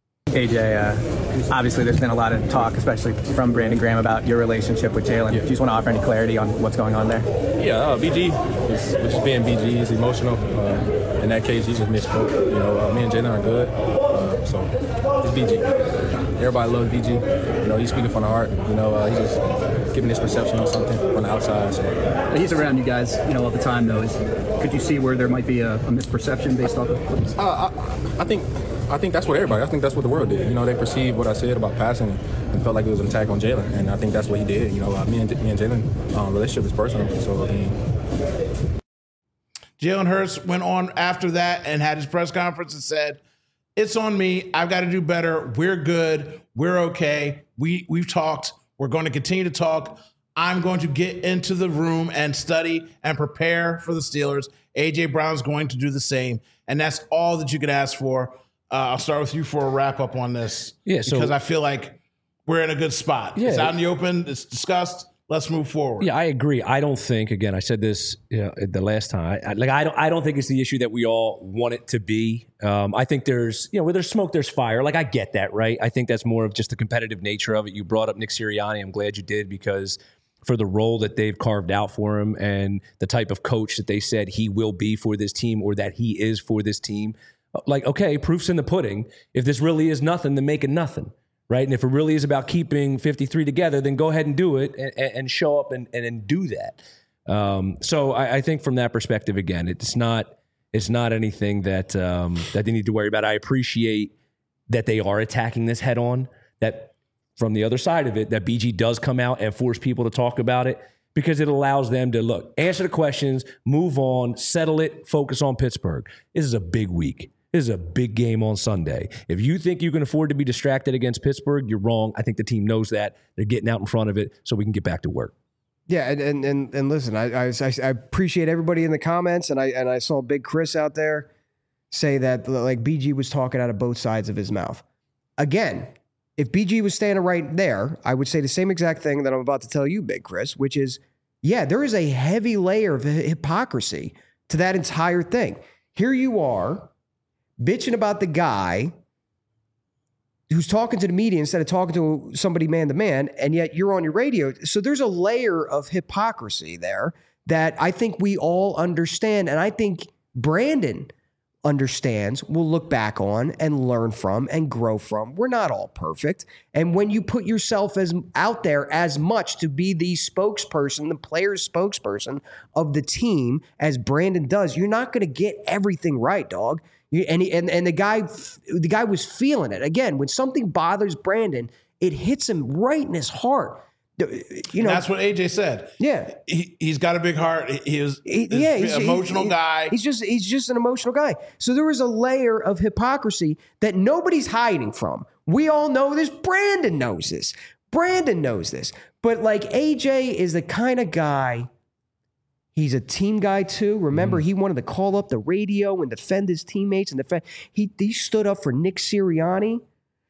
AJ, obviously there's been a lot of talk, especially from Brandon Graham, about your relationship with Jalen. Do you just want to offer any clarity on what's going on there? Yeah, BG is just being BG. He's emotional. In that case, he just misspoke. Me and Jalen are good, so it's BG. Everybody loves BG. He's speaking from the heart. He's just giving this perception of something from the outside. So. He's around you guys, all the time, though. Could you see where there might be a misperception based off of? I think that's what everybody. I think that's what the world did. They perceived what I said about passing and felt like it was an attack on Jalen, and I think that's what he did. Me and Jalen relationship is personal. So Jalen Hurts went on after that and had his press conference and said, "It's on me. I've got to do better. We're good. We're okay. We've talked. We're going to continue to talk. I'm going to get into the room and study and prepare for the Steelers. A.J. Brown's going to do the same, and that's all that you could ask for." I'll start with you for a wrap up on this. Yeah, because I feel like we're in a good spot. Yeah, it's out in the open. It's discussed. Let's move forward. Yeah, I agree. I don't think, again, I said this the last time. I don't think it's the issue that we all want it to be. I think there's, where there's smoke, there's fire. I get that, right? I think that's more of just the competitive nature of it. You brought up Nick Sirianni. I'm glad you did, because for the role that they've carved out for him and the type of coach that they said he will be for this team, or that he is for this team. Okay, proof's in the pudding. If this really is nothing, then make it nothing, right? And if it really is about keeping 53 together, then go ahead and do it and show up and do that. So I think from that perspective, again, it's not anything that they need to worry about. I appreciate that they are attacking this head on, that from the other side of it, that BG does come out and force people to talk about it, because it allows them to, look, answer the questions, move on, settle it, focus on Pittsburgh. This is a big week. This is a big game on Sunday. If you think you can afford to be distracted against Pittsburgh, you're wrong. I think the team knows that. They're getting out in front of it so we can get back to work. Yeah, and listen, I appreciate everybody in the comments, and I saw Big Chris out there say that, like, BG was talking out of both sides of his mouth. Again, if BG was standing right there, I would say the same exact thing that I'm about to tell you, Big Chris, which is, yeah, there is a heavy layer of hypocrisy to that entire thing. Here you are bitching about the guy who's talking to the media instead of talking to somebody man to man, and yet you're on your radio. So there's a layer of hypocrisy there that I think we all understand, and I think Brandon understands, will look back on and learn from and grow from. We're not all perfect. And when you put yourself out there as much to be the spokesperson, the player's spokesperson of the team, as Brandon does, you're not going to get everything right, dog. And the guy was feeling it. Again, when something bothers Brandon, it hits him right in his heart. You know, that's what AJ said. Yeah, he's got a big heart. He's an emotional guy. He's just an emotional guy. So there was a layer of hypocrisy that nobody's hiding from. We all know this. Brandon knows this. Brandon knows this. But like, AJ is the kind of guy. He's a team guy too. Remember, he wanted to call up the radio and defend his teammates and he stood up for Nick Sirianni.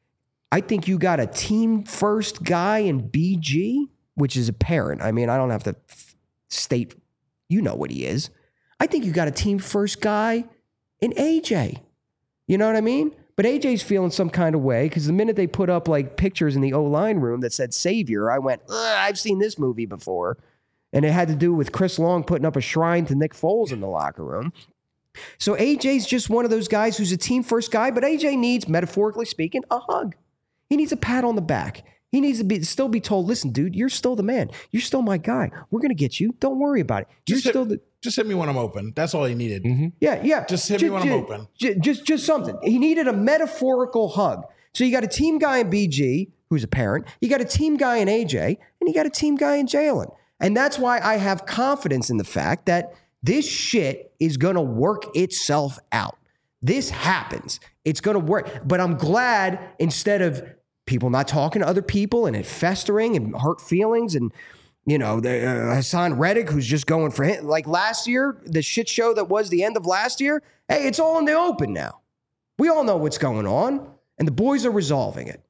I think you got a team first guy in BG, which is apparent. I mean, I don't have to state, you know what he is. I think you got a team first guy in AJ. You know what I mean? But AJ's feeling some kind of way because the minute they put up like pictures in the O-line room that said Savior, I went, I've seen this movie before. And it had to do with Chris Long putting up a shrine to Nick Foles in the locker room. So AJ's just one of those guys who's a team first guy, but AJ needs, metaphorically speaking, a hug. He needs a pat on the back. He needs to still be told, listen, dude, you're still the man. You're still my guy. We're going to get you. Don't worry about it. Just hit me when I'm open. That's all he needed. Mm-hmm. Yeah. Just hit me when I'm open. Just something. He needed a metaphorical hug. So you got a team guy in BG, who's a parent. You got a team guy in AJ, and you got a team guy in Jalen. And that's why I have confidence in the fact that this shit is going to work itself out. This happens. It's going to work. But I'm glad, instead of people not talking to other people and it festering and hurt feelings and, you know, Hassan Reddick, who's just going for him. Like last year, the shit show that was the end of last year, hey, it's all in the open now. We all know what's going on, and the boys are resolving it.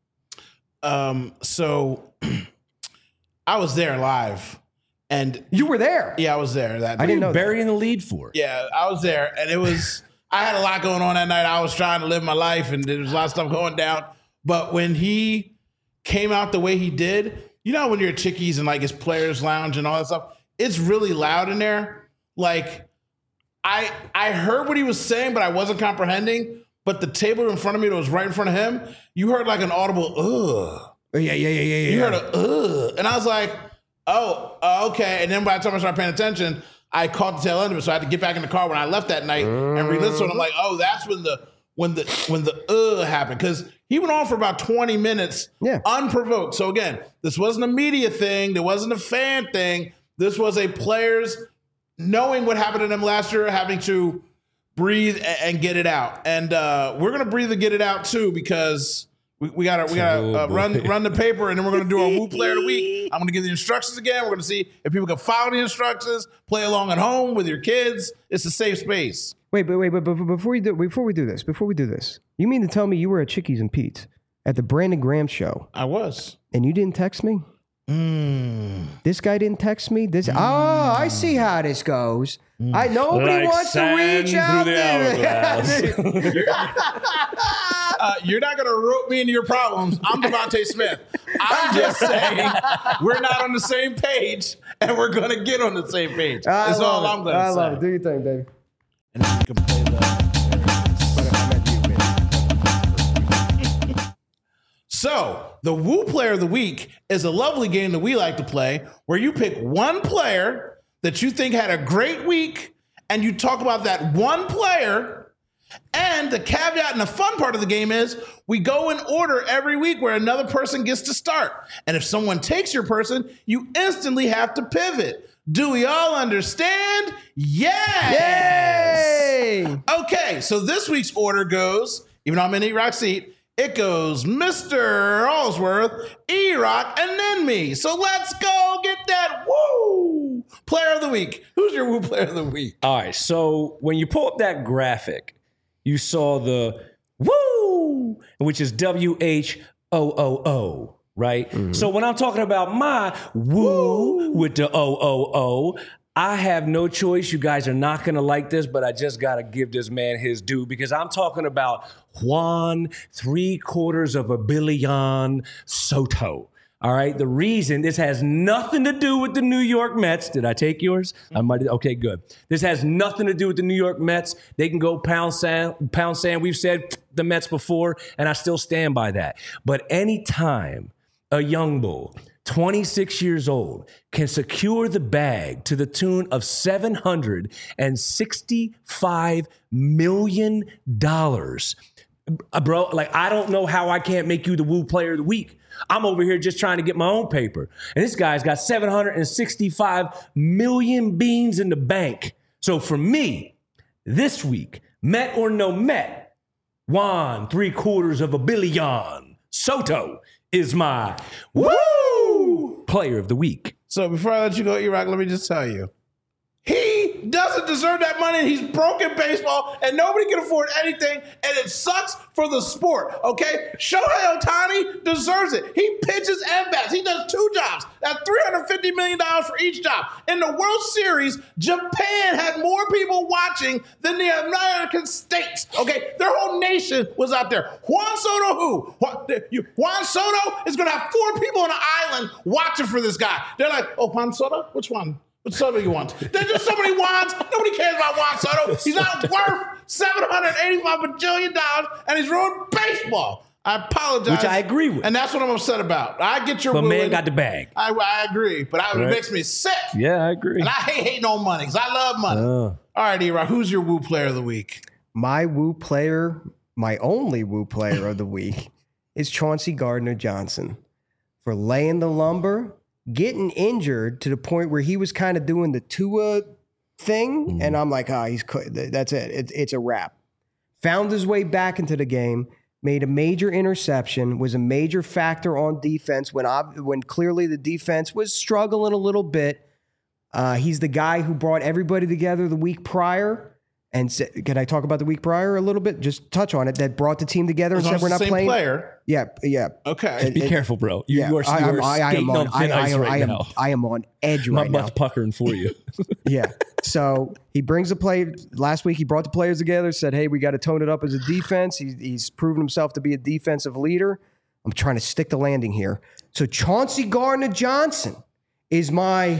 So I was there live. And you were there? Yeah, I was there. I didn't know. Burying the lead for. Yeah, I was there, and it was. I had a lot going on that night. I was trying to live my life, and there was a lot of stuff going down. But when he came out the way he did, you know, when you're at Chickies and like his players' lounge and all that stuff, it's really loud in there. Like, I heard what he was saying, but I wasn't comprehending. But the table in front of me that was right in front of him, you heard like an audible ugh. Yeah. You heard a ugh, and I was like, oh, okay. And then by the time I started paying attention, I caught the tail end of it. So I had to get back in the car when I left that night and re-listen to it. I'm like, oh, that's when the happened. Because he went on for about 20 minutes unprovoked. So again, this wasn't a media thing. There wasn't a fan thing. This was a players knowing what happened to them last year, having to breathe and get it out. And we're going to breathe and get it out too, because we gotta run the paper, and then we're gonna do our Woo Player of the Week. I'm gonna give the instructions again. We're gonna see if people can follow the instructions, play along at home with your kids. It's a safe space. Wait, but before we do this, you mean to tell me you were at Chickies and Pete's at the Brandon Graham show? I was, and you didn't text me. This guy didn't text me. I see how this goes. Nobody wants to reach out there. You're not going to rope me into your problems. I'm Devontae Smith. I'm just saying we're not on the same page, and we're going to get on the same page. That's all I'm going to say. I love it. Do your thing, baby. And then you can play So the Woo Player of the Week is a lovely game that we like to play where you pick one player that you think had a great week and you talk about that one player. And the caveat and the fun part of the game is we go in order every week where another person gets to start. And if someone takes your person, you instantly have to pivot. Do we all understand? Yes! Yay! Okay, so this week's order goes, even though I'm in E-Rock's seat, it goes Mr. Allsworth, E-Rock, and then me. So let's go get that Woo Player of the Week. Who's your Woo Player of the Week? All right, so when you pull up that graphic, you saw the Woo, which is WHOOO, right? Mm-hmm. So when I'm talking about my Woo with the OOO, I have no choice. You guys are not going to like this, but I just got to give this man his due because I'm talking about Juan $750 million Soto. All right. The reason this has nothing to do with the New York Mets. Did I take yours? I might. Okay, good. This has nothing to do with the New York Mets. They can go pound sand. We've said the Mets before, and I still stand by that. But anytime a young bull, 26 years old, can secure the bag to the tune of $765 million. Bro, like, I don't know how I can't make you the Woo Player of the Week. I'm over here just trying to get my own paper. And this guy's got 765 million beans in the bank. So for me, this week, Met or no Met, Juan $750 million Soto is my Woo Player of the Week. So before I let you go, E-Rock, let me just tell you, he doesn't deserve that money. He's broken baseball, and nobody can afford anything, and it sucks for the sport, okay? Shohei Ohtani deserves it. He pitches and bats. He does two jobs. That's $350 million for each job. In the World Series, Japan had more people watching than the American States, okay? Their whole nation was out there. Juan Soto who? Juan Soto is going to have 4 people on an island watching for this guy. They're like, oh, Juan Soto? Which one? What Soto you want? There's just so many Juans. Nobody cares about Juan Soto. He's not worth $785 bajillion, and he's ruined baseball. I apologize. Which I agree with. And that's what I'm upset about. I get your But wooing. man got the bag. I agree, but it makes me sick. Yeah, I agree. And I hate hating on money because I love money. All right, E-Rock, who's your Woo Player of the Week? My Woo Player, my only Woo Player of the Week is Chauncey Gardner-Johnson for laying the lumber, getting injured to the point where he was kind of doing the Tua thing. And I'm like, that's it. It's a wrap. Found his way back into the game, made a major interception, was a major factor on defense when clearly the defense was struggling a little bit. He's the guy who brought everybody together the week prior. And can I talk about the week prior a little bit? Just touch on it. That brought the team together and said we're not playing. Player. Yeah. Okay. Be careful, bro. You are skating on thin ice right now. I am on edge right now. My butt's puckering for you. Yeah. So he brings the play. Last week he brought the players together, said, hey, we got to tone it up as a defense. He's proven himself to be a defensive leader. I'm trying to stick the landing here. So Chauncey Gardner-Johnson is my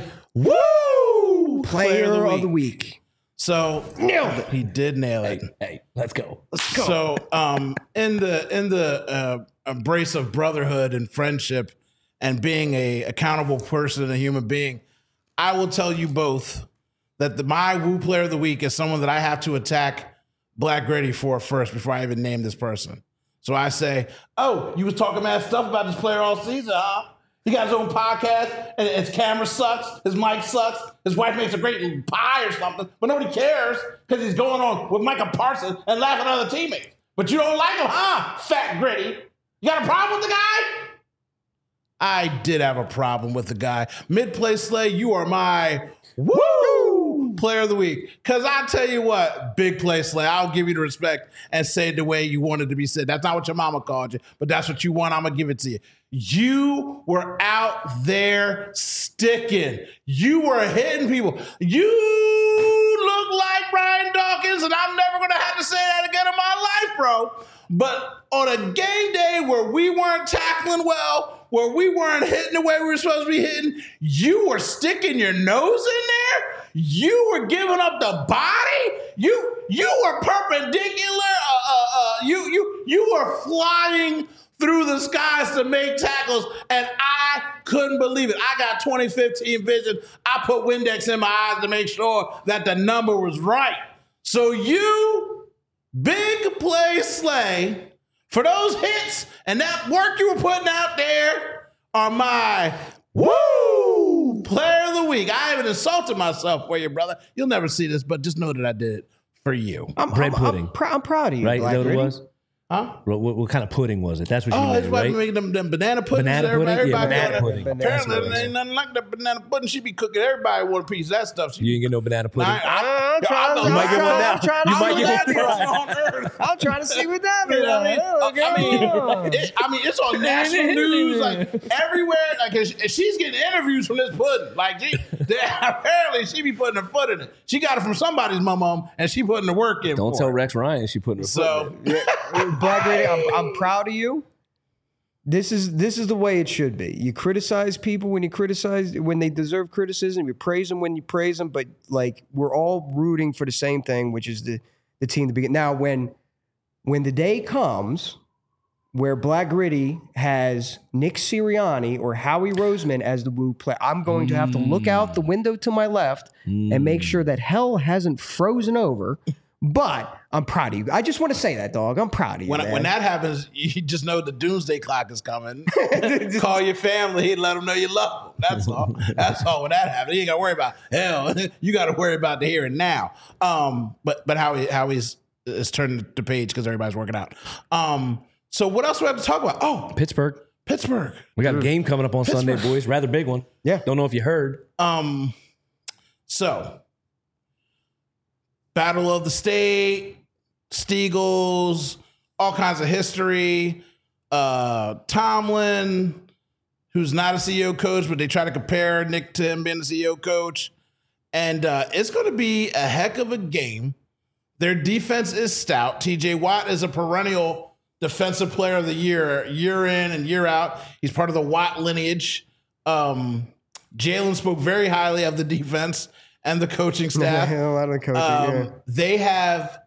Woo Player of the Week. So nailed it. He did nail it. Hey, let's go. So in the embrace of brotherhood and friendship and being a accountable person and a human being, I will tell you both that my Woo Player of the Week is someone that I have to attack Black Gritty for first before I even name this person. So I say, oh, you was talking mad stuff about this player all season, huh? He got his own podcast, and his camera sucks, his mic sucks, his wife makes a great pie or something, but nobody cares because he's going on with Micah Parsons and laughing at other teammates. But you don't like him, huh, Fat Gritty? You got a problem with the guy? I did have a problem with the guy. Mid-Play Slay, you are my Woo Player of the Week. Because I tell you what, Big Play Slay, I'll give you the respect and say it the way you wanted to be said. That's not what your mama called you, but that's what you want. I'm going to give it to you. You were out there sticking. You were hitting people. You look like Brian Dawkins, and I'm never going to have to say that again in my life, bro. But on a game day where we weren't tackling well, where we weren't hitting the way we were supposed to be hitting, you were sticking your nose in there. You were giving up the body. You were perpendicular. You were flying through the skies to make tackles, and I couldn't believe it. I got 2015 vision. I put Windex in my eyes to make sure that the number was right. So you, Big Play Slay, for those hits and that work you were putting out there, are my woo player of the week. I haven't insulted myself for you, brother. You'll never see this, but just know that I did it for you. Bread pudding. I'm proud of you, Right? Is Black that what it Gritty. was? Huh? What kind of pudding was it? That's what you Oh, mean, it's right? right? Making them banana puddings. Banana pudding? Yeah, Everybody banana doing pudding. that. Apparently, there ain't nothing like that banana pudding. She be cooking. Everybody want a piece of that stuff. You didn't get no banana pudding. I'm trying to see what that means. I mean, it's on national news, like everywhere. Like she's getting interviews from this pudding. Like apparently, she be putting her foot in it. She got it from somebody's mom, and she putting the work in. Don't tell Rex Ryan she putting her foot in it. Black Gritty, I'm proud of you. This is the way it should be. You criticize people when they deserve criticism. You praise them when you praise them. But like we're all rooting for the same thing, which is the team to begin. Now, when the day comes where Black Gritty has Nick Sirianni or Howie Roseman as the Woo player, I'm going to have to look out the window to my left and make sure that hell hasn't frozen over. But I'm proud of you. I just want to say that, dog. I'm proud of you. When that happens, you just know the doomsday clock is coming. Call your family and let them know you love them. That's all. That's all. When that happens, you ain't got to worry about hell. You got to worry about the here and now. But Howie's turning the page because everybody's working out. So what else do we have to talk about? Oh, Pittsburgh. We got a game coming up on Sunday, boys. Rather big one. Yeah. Don't know if you heard. So Battle of the State, Steagles, all kinds of history. Tomlin, who's not a CEO coach, but they try to compare Nick to him being the CEO coach. And it's going to be a heck of a game. Their defense is stout. TJ Watt is a perennial defensive player of the year in and year out. He's part of the Watt lineage. Jalen spoke very highly of the defense and the coaching staff. A lot of the coaching, They have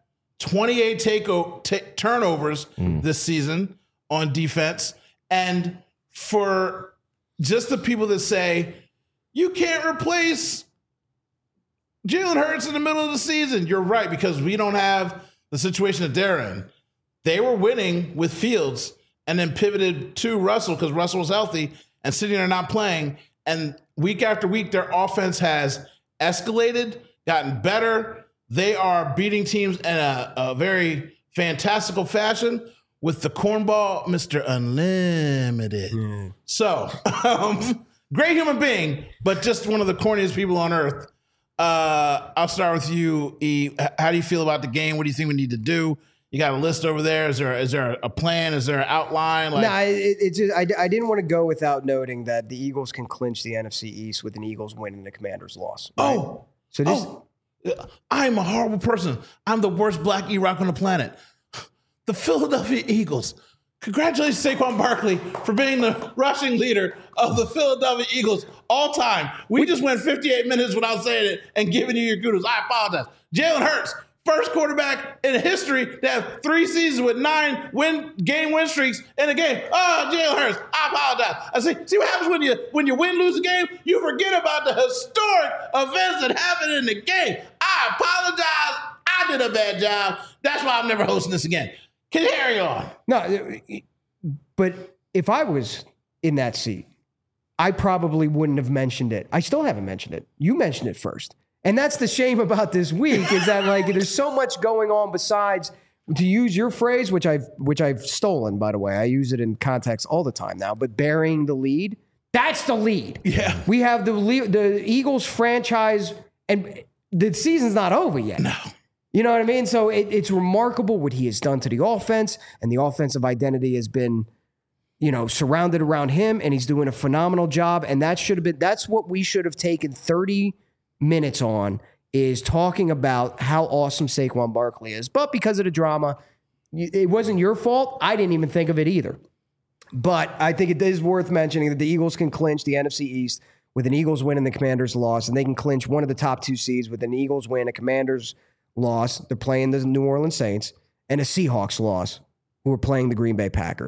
28 turnovers this season on defense. And for just the people that say, you can't replace Jalen Hurts in the middle of the season, you're right, because we don't have the situation that they're in. They were winning with Fields and then pivoted to Russell because Russell was healthy and sitting there not playing. And week after week, their offense has escalated, gotten better. They are beating teams in a very fantastical fashion with the cornball, Mr. Unlimited. So, great human being, but just one of the corniest people on earth. I'll start with you, E. How do you feel about the game? What do you think we need to do? You got a list over there. Is there a plan? Is there an outline? No, it's just, I didn't want to go without noting that the Eagles can clinch the NFC East with an Eagles win and the Commanders loss. Right? I'm a horrible person. I'm the worst black E-Rock on the planet. The Philadelphia Eagles. Congratulations, Saquon Barkley, for being the rushing leader of the Philadelphia Eagles all time. We just went 58 minutes without saying it and giving you your kudos. I apologize. Jalen Hurts, first quarterback in history to have 3 seasons with 9 game win streaks in a game. Oh, Jalen Hurts, I apologize. I see what happens when you win, lose a game? You forget about the historic events that happened in the game. I apologize. I did a bad job. That's why I'm never hosting this again. Carry on. No, but if I was in that seat, I probably wouldn't have mentioned it. I still haven't mentioned it. You mentioned it first. And that's the shame about this week is that like there's so much going on besides, to use your phrase, which I've stolen, by the way. I use it in context all the time now, but burying the lead, that's the lead. Yeah. We have the Eagles franchise, and the season's not over yet. No. You know what I mean? So it's remarkable what he has done to the offense, and the offensive identity has been, surrounded around him, and he's doing a phenomenal job. And that's what we should have taken 30 minutes on, is talking about how awesome Saquon Barkley is. But because of the drama, it wasn't your fault. I didn't even think of it either. But I think it is worth mentioning that the Eagles can clinch the NFC East with an Eagles win and the Commanders loss, and they can clinch one of the top 2 seeds with an Eagles win, a Commanders loss. They're playing the New Orleans Saints, and a Seahawks loss, who are playing the Green Bay Packers.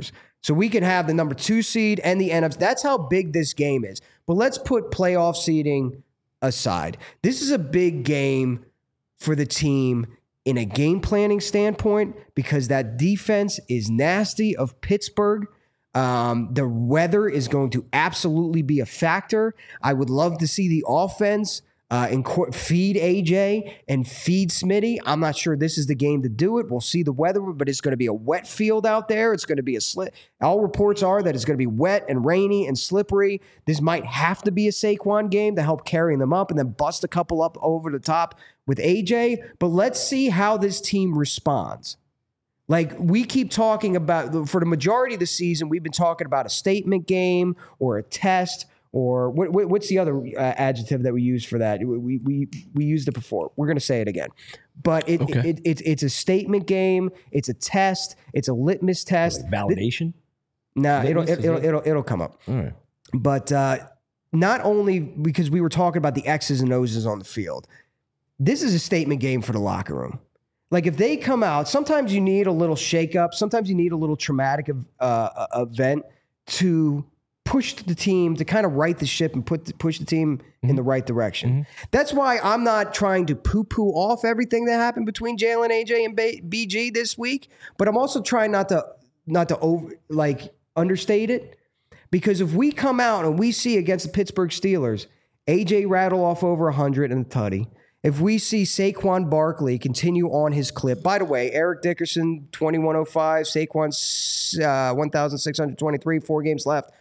So we can have the number 2 seed and the NFC. That's how big this game is. But let's put playoff seeding aside. This is a big game for the team in a game planning standpoint because that defense is nasty of Pittsburgh. The weather is going to absolutely be a factor. I would love to see the offense feed AJ and feed Smitty. I'm not sure this is the game to do it. We'll see the weather, but it's going to be a wet field out there. It's going to be a slip. All reports are that it's going to be wet and rainy and slippery. This might have to be a Saquon game to help carry them up and then bust a couple up over the top with AJ. But let's see how this team responds. Like we keep talking about, for the majority of the season, we've been talking about a statement game or a test. Or what's the other adjective that we use for that? We used it before. We're going to say it again. But it's a statement game. It's a test. It's a litmus test. Validation? No, it'll come up. All right. But not only because we were talking about the X's and O's on the field, this is a statement game for the locker room. Like if they come out, sometimes you need a little shakeup. Sometimes you need a little traumatic event to push the team, to kind of right the ship and push the team in the right direction. That's why I'm not trying to poo-poo off everything that happened between Jalen, AJ, and BG this week, but I'm also trying not to understate it, because if we come out and we see against the Pittsburgh Steelers, AJ rattle off over 100 in the tutty, if we see Saquon Barkley continue on his clip, by the way, Eric Dickerson, 2105, Saquon's 1,623, 4 games left,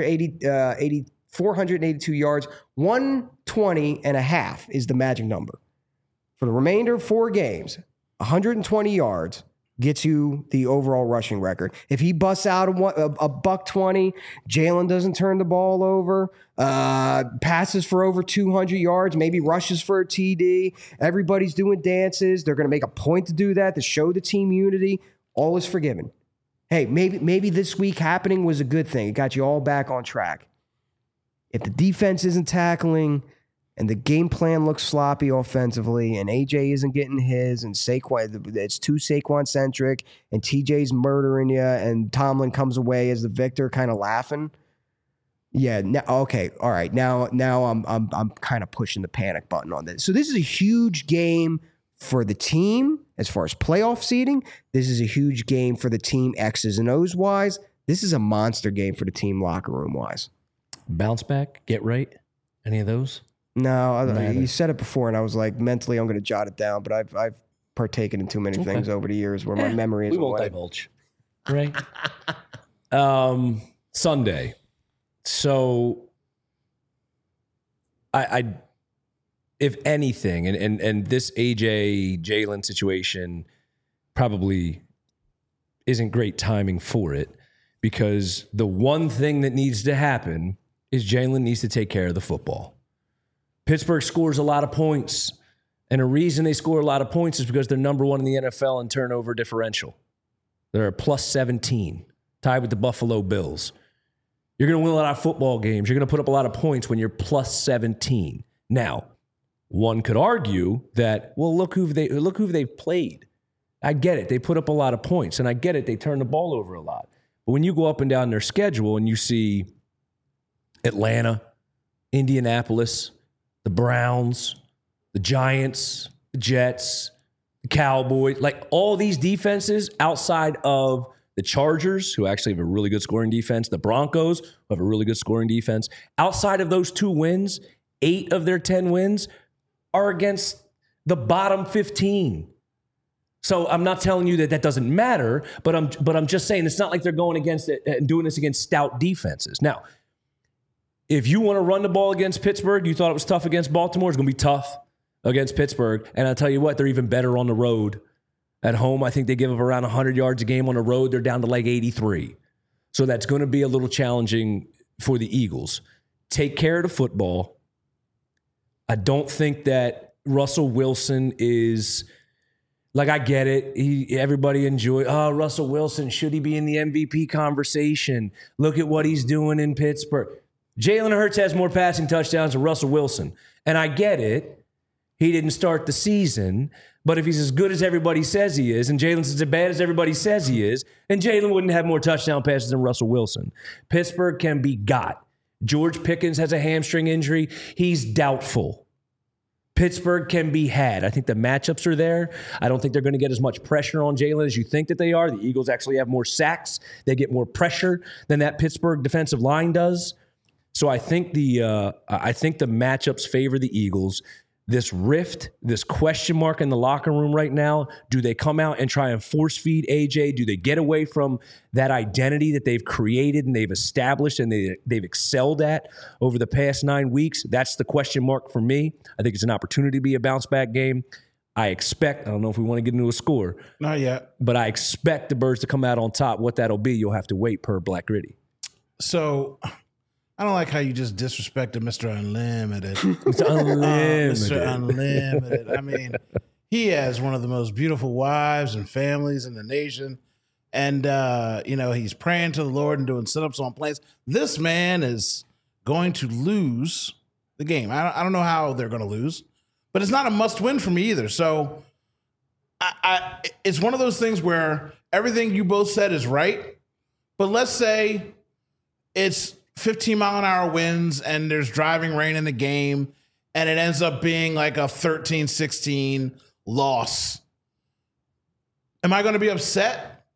482 yards, 120 and a half is the magic number. For the remainder of 4 games, 120 yards gets you the overall rushing record. If he busts out a $120, Jalen doesn't turn the ball over, passes for over 200 yards, maybe rushes for a TD, everybody's doing dances. They're going to make a point to do that to show the team unity. All is forgiven. Hey, maybe this week happening was a good thing. It got you all back on track. If the defense isn't tackling and the game plan looks sloppy offensively and AJ isn't getting his and Saquon, it's too Saquon-centric and TJ's murdering you and Tomlin comes away as the victor kind of laughing. Yeah, okay, all right. Now I'm kind of pushing the panic button on this. So this is a huge game for the team as far as playoff seeding. This is a huge game for the team X's and O's wise. This is a monster game for the team locker room wise. Bounce back, get right, any of those? No, you said it before, and I was like, mentally, I'm going to jot it down. But I've partaken in too many things over the years where my memory is. We won't divulge, right? Sunday. So, I if anything, and this AJ Jalen situation probably isn't great timing for it, because the one thing that needs to happen is Jalen needs to take care of the football. Pittsburgh scores a lot of points, and a reason they score a lot of points is because they're number 1 in the NFL in turnover differential. They're a plus 17, tied with the Buffalo Bills. You're going to win a lot of football games. You're going to put up a lot of points when you're plus 17. Now, one could argue that, well, look who they've played. I get it. They put up a lot of points, and I get it. They turn the ball over a lot. But when you go up and down their schedule and you see Atlanta, Indianapolis, the Browns, the Giants, the Jets, the Cowboys, like all these defenses outside of the Chargers, who actually have a really good scoring defense, the Broncos, who have a really good scoring defense, outside of those 2 wins, 8 of their 10 wins are against the bottom 15. So I'm not telling you that doesn't matter, but I'm just saying it's not like they're going against it and doing this against stout defenses. Now, if you want to run the ball against Pittsburgh, you thought it was tough against Baltimore, it's going to be tough against Pittsburgh. And I'll tell you what, they're even better on the road. At home, I think they give up around 100 yards a game. On the road, they're down to like 83. So that's going to be a little challenging for the Eagles. Take care of the football. I don't think that Russell Wilson is, like, I get it. Everybody enjoy, Russell Wilson, should he be in the MVP conversation? Look at what he's doing in Pittsburgh. Jalen Hurts has more passing touchdowns than Russell Wilson. And I get it. He didn't start the season. But if he's as good as everybody says he is, and Jalen's as bad as everybody says he is, then Jalen wouldn't have more touchdown passes than Russell Wilson. Pittsburgh can be got. George Pickens has a hamstring injury. He's doubtful. Pittsburgh can be had. I think the matchups are there. I don't think they're going to get as much pressure on Jalen as you think that they are. The Eagles actually have more sacks. They get more pressure than that Pittsburgh defensive line does. So I think the matchups favor the Eagles. This rift, this question mark in the locker room right now, do they come out and try and force feed AJ? Do they get away from that identity that they've created and they've established and they've excelled at over the past 9 weeks? That's the question mark for me. I think it's an opportunity to be a bounce back game. I don't know if we want to get into a score. Not yet. But I expect the Birds to come out on top. What that'll be, you'll have to wait per Black Gritty. So I don't like how you just disrespected Mr. Unlimited. Mr. Unlimited. Mr. Unlimited. I mean, he has one of the most beautiful wives and families in the nation. And, he's praying to the Lord and doing sit-ups on planes. This man is going to lose the game. I don't know how they're going to lose, but it's not a must-win for me either. So it's one of those things where everything you both said is right, but let's say it's 15-mile-an-hour winds and there's driving rain in the game and it ends up being like a 13-16 loss. Am I going to be upset?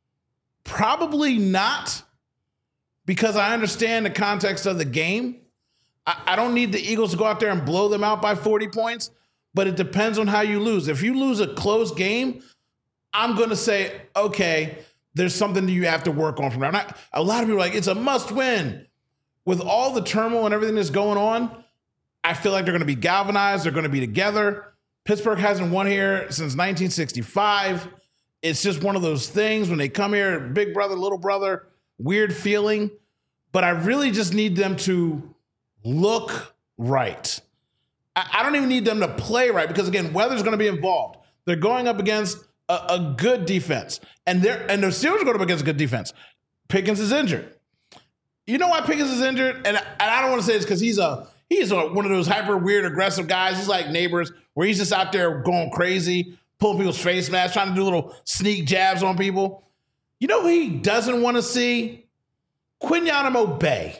Probably not, because I understand the context of the game. I don't need the Eagles to go out there and blow them out by 40 points, but it depends on how you lose. If you lose a close game, I'm going to say, okay, there's something that you have to work on from there. A lot of people are like, it's a must win. With all the turmoil and everything that's going on, I feel like they're going to be galvanized. They're going to be together. Pittsburgh hasn't won here since 1965. It's just one of those things when they come here, big brother, little brother, weird feeling. But I really just need them to look right. I don't even need them to play right because, again, weather's going to be involved. They're going up against a good defense. And the Steelers are going up against a good defense. Pickens is injured. You know why Pickens is injured? And I don't want to say this because he's one of those hyper weird aggressive guys. He's like Neighbors, where he's just out there going crazy, pulling people's face masks, trying to do little sneak jabs on people. You know who he doesn't want to see? Quinyanimo Bay.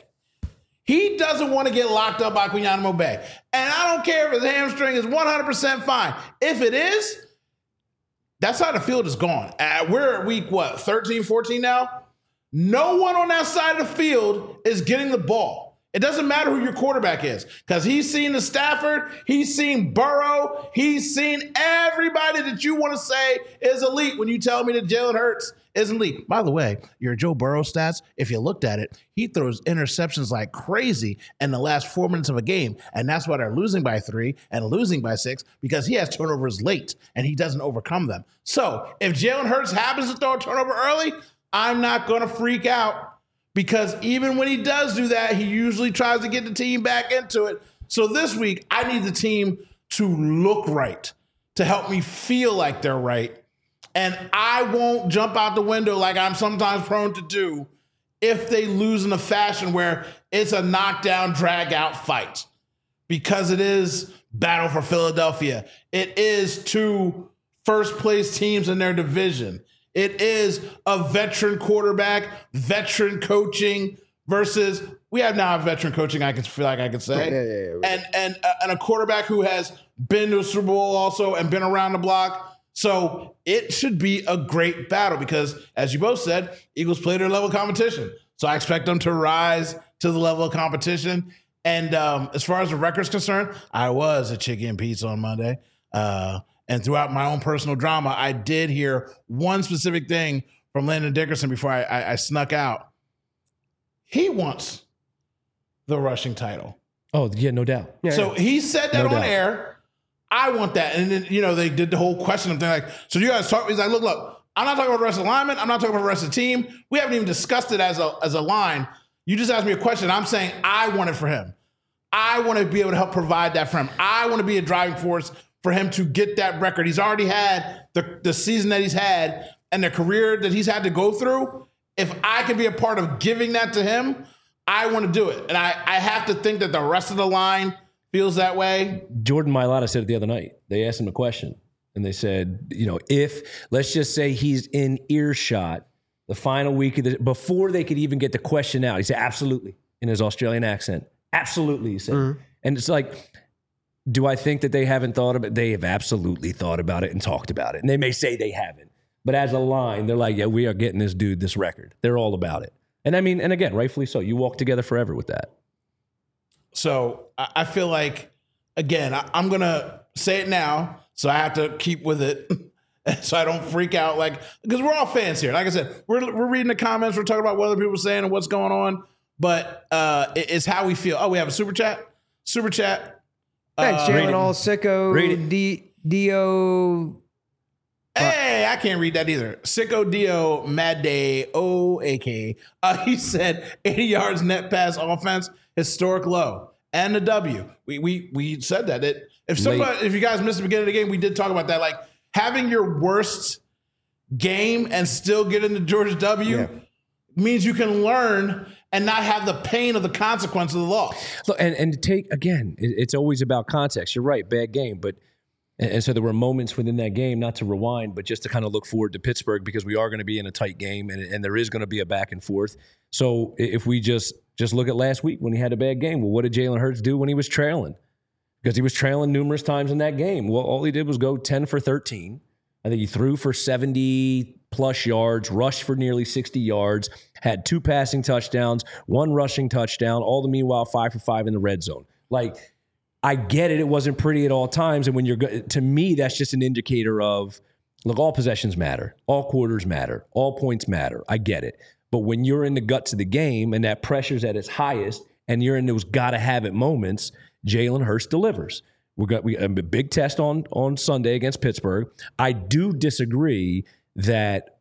He doesn't want to get locked up by Quinyanimo Bay. And I don't care if his hamstring is 100% fine. If it is, that side of the field is gone. We're at week, 13, 14 now? No one on that side of the field is getting the ball. It doesn't matter who your quarterback is because he's seen the Stafford, he's seen Burrow, he's seen everybody that you want to say is elite when you tell me that Jalen Hurts is elite. By the way, your Joe Burrow stats, if you looked at it, he throws interceptions like crazy in the last 4 minutes of a game, and that's why they're losing by 3 and losing by 6 because he has turnovers late and he doesn't overcome them. So if Jalen Hurts happens to throw a turnover early, I'm not going to freak out because even when he does do that, he usually tries to get the team back into it. So this week, I need the team to look right, to help me feel like they're right. And I won't jump out the window like I'm sometimes prone to do if they lose in a fashion where it's a knockdown, drag-out fight. Because it is battle for Philadelphia. It is 2 first-place teams in their division. It is a veteran quarterback, veteran coaching versus we have now a veteran coaching. I feel like I could say, and a quarterback who has been to a Super Bowl also and been around the block. So it should be a great battle because, as you both said, Eagles play their level of competition. So I expect them to rise to the level of competition. And as far as the record's concerned, I was a chicken pizza on Monday. And throughout my own personal drama, I did hear one specific thing from Landon Dickerson before I snuck out. He wants the rushing title. Oh, yeah, no doubt. Yeah, so he said that no on doubt. Air. I want that. And then, they did the whole question thing like, so you guys talk? He's like, look, I'm not talking about the rest of the linemen. I'm not talking about the rest of the team. We haven't even discussed it as a line. You just asked me a question. I'm saying I want it for him. I want to be able to help provide that for him. I want to be a driving force for him to get that record. He's already had the season that he's had and the career that he's had to go through. If I can be a part of giving that to him, I want to do it. And I have to think that the rest of the line feels that way. Jordan Mailata said it the other night. They asked him a question, and they said, if let's just say he's in earshot the final week of before they could even get the question out, he said, absolutely, in his Australian accent. Absolutely, he said. Mm-hmm. And it's like, do I think that they haven't thought about it? They have absolutely thought about it and talked about it. And they may say they haven't. But as a line, they're like, yeah, we are getting this dude this record. They're all about it. And I mean, and again, rightfully so. You walk together forever with that. So I feel like, again, I'm going to say it now, so I have to keep with it so I don't freak out. Because we're all fans here. Like I said, we're reading the comments. We're talking about what other people are saying and what's going on. But it's how we feel. Oh, we have a super chat? Super chat. Thanks, Jalen All Sicko Dio. Hey, I can't read that either. Sicko Dio Mad Day O-A-K. He said 80 yards net pass offense, historic low. And the W. We said that. If you guys missed the beginning of the game, we did talk about that. Like, having your worst game and still getting the Georgia W means you can learn and not have the pain of the consequence of the loss. Look, and to take, again, it's always about context. You're right, bad game. And so there were moments within that game, not to rewind, but just to kind of look forward to Pittsburgh, because we are going to be in a tight game and there is going to be a back and forth. So if we just look at last week when he had a bad game, well, what did Jalen Hurts do when he was trailing? Because he was trailing numerous times in that game. Well, all he did was go 10 for 13. I think he threw for 70-plus yards, rushed for nearly 60 yards, had 2 passing touchdowns, 1 rushing touchdown, all the meanwhile 5 for 5 in the red zone. Like, I get it. It wasn't pretty at all times. And when to me, that's just an indicator of, look, all possessions matter. All quarters matter. All points matter. I get it. But when you're in the guts of the game and that pressure's at its highest and you're in those gotta-have-it moments, Jalen Hurts delivers. We got a big test on Sunday against Pittsburgh. I do disagree that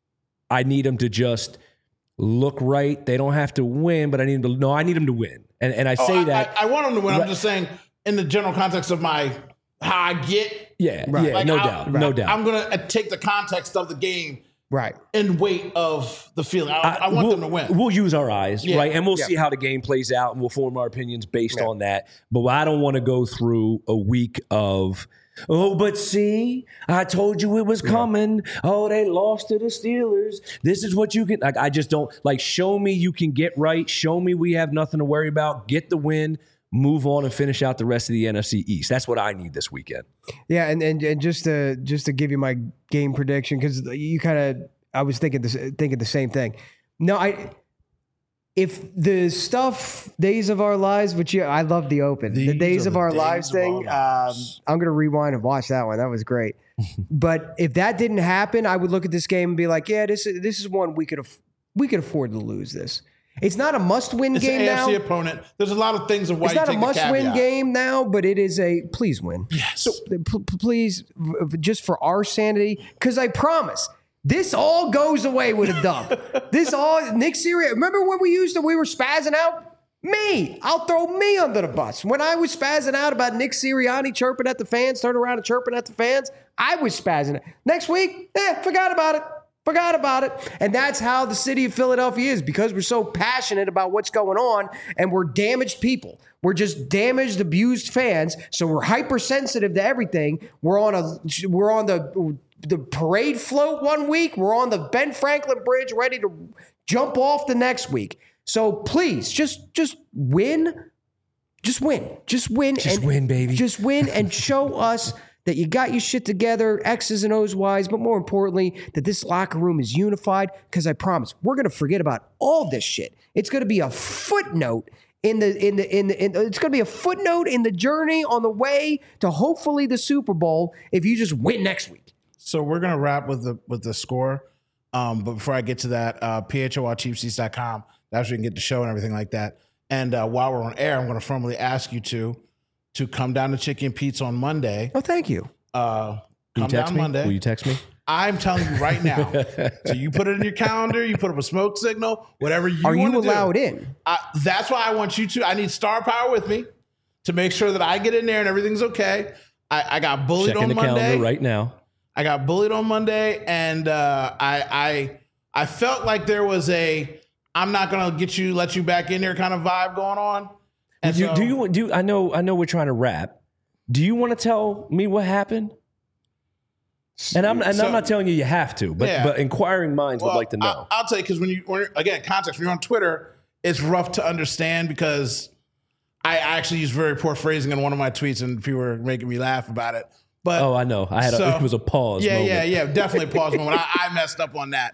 I need him to just look right. They don't have to win, but I need him to win. And I say that. I want him to win. Right. I'm just saying in the general context of how I get. Yeah, right. Yeah, like no doubt. I'm going to take the context of the game. Right. In weight of the feeling. I want them to win. We'll use our eyes, right? And we'll see how the game plays out, and we'll form our opinions based on that. But I don't want to go through a week of, but see, I told you it was coming. Oh, they lost to the Steelers. This is what you can, I just don't, show me you can get right. Show me we have nothing to worry about. Get the win. Move on and finish out the rest of the NFC East. That's what I need this weekend. Yeah, and just to give you my game prediction, because I was thinking the same thing. No, if the Days of Our Lives, which I love the open, the Days of Our Lives thing, I'm going to rewind and watch that one. That was great. But if that didn't happen, I would look at this game and be like, yeah, this is one we could afford to lose this. It's not a must-win game now. It's an AFC opponent. There's a lot of things of why it's not a must-win game now, but it is a please win. Yes. So please, just for our sanity, because I promise this all goes away with a dub. Nick Sirianni. Remember when we were spazzing out? I'll throw me under the bus. When I was spazzing out about Nick Sirianni chirping at the fans, turning around and chirping at the fans, I was spazzing out. Next week, forgot about it. Forgot about it. And that's how the city of Philadelphia is, because we're so passionate about what's going on and we're damaged people. We're just damaged, abused fans. So we're hypersensitive to everything. We're on the parade float one week. We're on the Ben Franklin Bridge ready to jump off the next week. So please just win. Just win. Just win. Just win, baby. Just win and show us that you got your shit together, X's and O's wise, but more importantly, that this locker room is unified, because I promise we're going to forget about all this shit. It's going to be a footnote it's going to be a footnote in the journey on the way to hopefully the Super Bowl if you just win next week. So we're going to wrap with the score. But before I get to that, PHOLCheapseats.com, that's where you can get the show and everything like that. And while we're on air, I'm going to formally ask you to come down to Chicken Pete's on Monday. Oh, thank you. Come down Monday. Will you text me? I'm telling you right now. So you put it in your calendar, you put up a smoke signal, whatever you want to do. Are you allowed in? That's why I want you to. I need star power with me to make sure that I get in there and everything's okay. I got bullied on Monday. Checking the calendar right now. I got bullied on Monday, and I felt like there was I'm not going to let you back in there kind of vibe going on. And so, I know we're trying to wrap. Do you want to tell me what happened? And I'm not telling you have to, but inquiring minds would like to know. I'll tell you, because again, context, when you're on Twitter, it's rough to understand because I actually used very poor phrasing in one of my tweets and people were making me laugh about it. But I know. It was a pause moment. Yeah, definitely a pause moment. I messed up on that.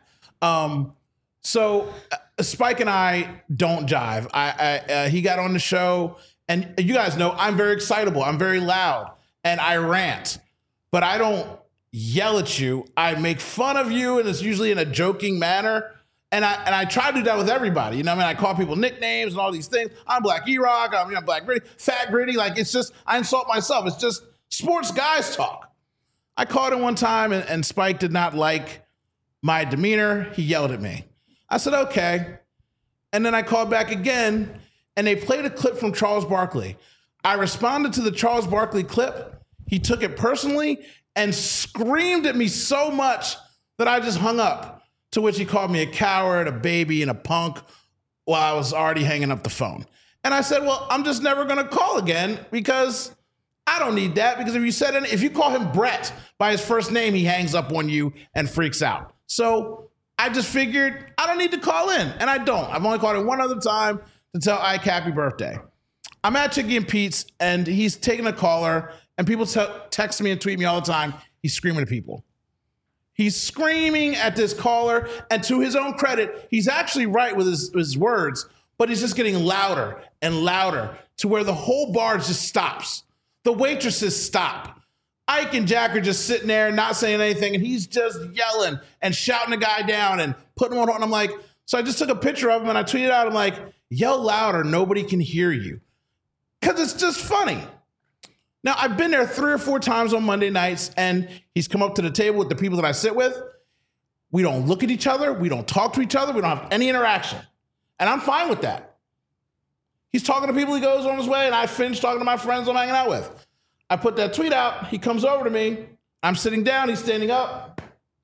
So Spike and I don't jive. He got on the show, and you guys know I'm very excitable. I'm very loud, and I rant. But I don't yell at you. I make fun of you, and it's usually in a joking manner. And I try to do that with everybody. You know what I mean? I call people nicknames and all these things. I'm Black E-Rock. I'm Black Gritty, Fat Gritty. Like, it's just, I insult myself. It's just sports guys talk. I called him one time, and Spike did not like my demeanor. He yelled at me. I said, okay. And then I called back again, and they played a clip from Charles Barkley. I responded to the Charles Barkley clip. He took it personally and screamed at me so much that I just hung up, to which he called me a coward, a baby, and a punk while I was already hanging up the phone. And I said, well, I'm just never going to call again because I don't need that. Because if you call him Brett by his first name, he hangs up on you and freaks out. So I just figured I don't need to call in, and I don't. I've only called in one other time to tell Ike happy birthday. I'm at Chicky and Pete's, and he's taking a caller, and people text me and tweet me all the time. He's screaming at people. He's screaming at this caller, and to his own credit, he's actually right with his words, but he's just getting louder and louder to where the whole bar just stops. The waitresses stop. Ike and Jack are just sitting there not saying anything, and he's just yelling and shouting the guy down and putting him on. And I'm like, so I just took a picture of him and I tweeted out, I'm like, yell louder, nobody can hear you. Because it's just funny. Now, I've been there 3 or 4 times on Monday nights, and he's come up to the table with the people that I sit with. We don't look at each other. We don't talk to each other. We don't have any interaction. And I'm fine with that. He's talking to people. He goes on his way, and I finish talking to my friends I'm hanging out with. I put that tweet out. He comes over to me. I'm sitting down. He's standing up.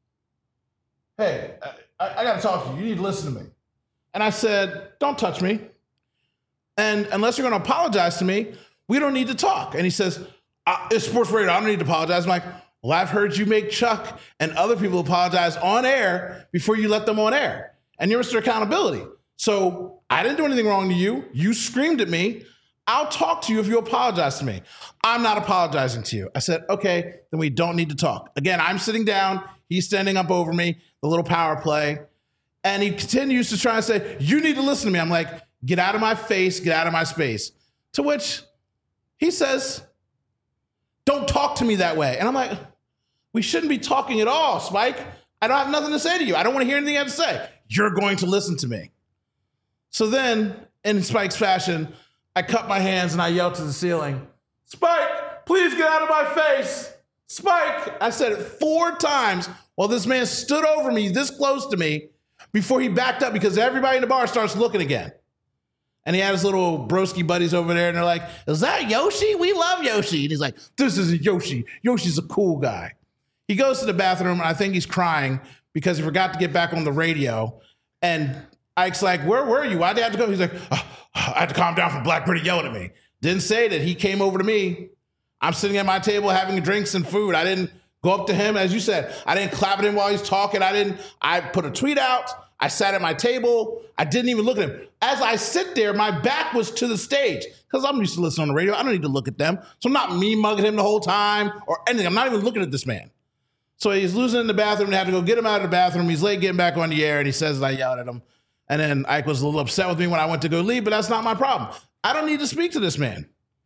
Hey, I got to talk to you. You need to listen to me. And I said, don't touch me. And unless you're going to apologize to me, we don't need to talk. And he says, it's sports radio. I don't need to apologize. I'm like, well, I've heard you make Chuck and other people apologize on air before you let them on air. And you're Mr. Accountability. So I didn't do anything wrong to you. You screamed at me. I'll talk to you if you apologize to me. I'm not apologizing to you. I said, okay, then we don't need to talk. Again, I'm sitting down. He's standing up over me, the little power play. And he continues to try and say, you need to listen to me. I'm like, get out of my face, get out of my space. To which he says, don't talk to me that way. And I'm like, we shouldn't be talking at all, Spike. I don't have nothing to say to you. I don't want to hear anything you have to say. You're going to listen to me. So then, in Spike's fashion, I cut my hands and I yelled to the ceiling, Spike, please get out of my face. Spike. I said it 4 times while this man stood over me this close to me before he backed up because everybody in the bar starts looking again. And he had his little broski buddies over there, and they're like, is that Yoshi? We love Yoshi. And he's like, this isn't Yoshi. Yoshi's a cool guy. He goes to the bathroom, and I think he's crying because he forgot to get back on the radio. And Ike's like, where were you? Why'd they have to go? He's like, I had to calm down from Black Gritty yelling at me. Didn't say that. He came over to me. I'm sitting at my table having drinks and food. I didn't go up to him. As you said, I didn't clap at him while he's talking. I put a tweet out. I sat at my table. I didn't even look at him. As I sit there, my back was to the stage because I'm used to listening on the radio. I don't need to look at them. So I'm not me mugging him the whole time or anything. I'm not even looking at this man. So he's losing in the bathroom. They had to go get him out of the bathroom. He's late getting back on the air, and he says that I yelled at him. And then Ike was a little upset with me when I went to go leave, but that's not my problem. I don't need to speak to this man.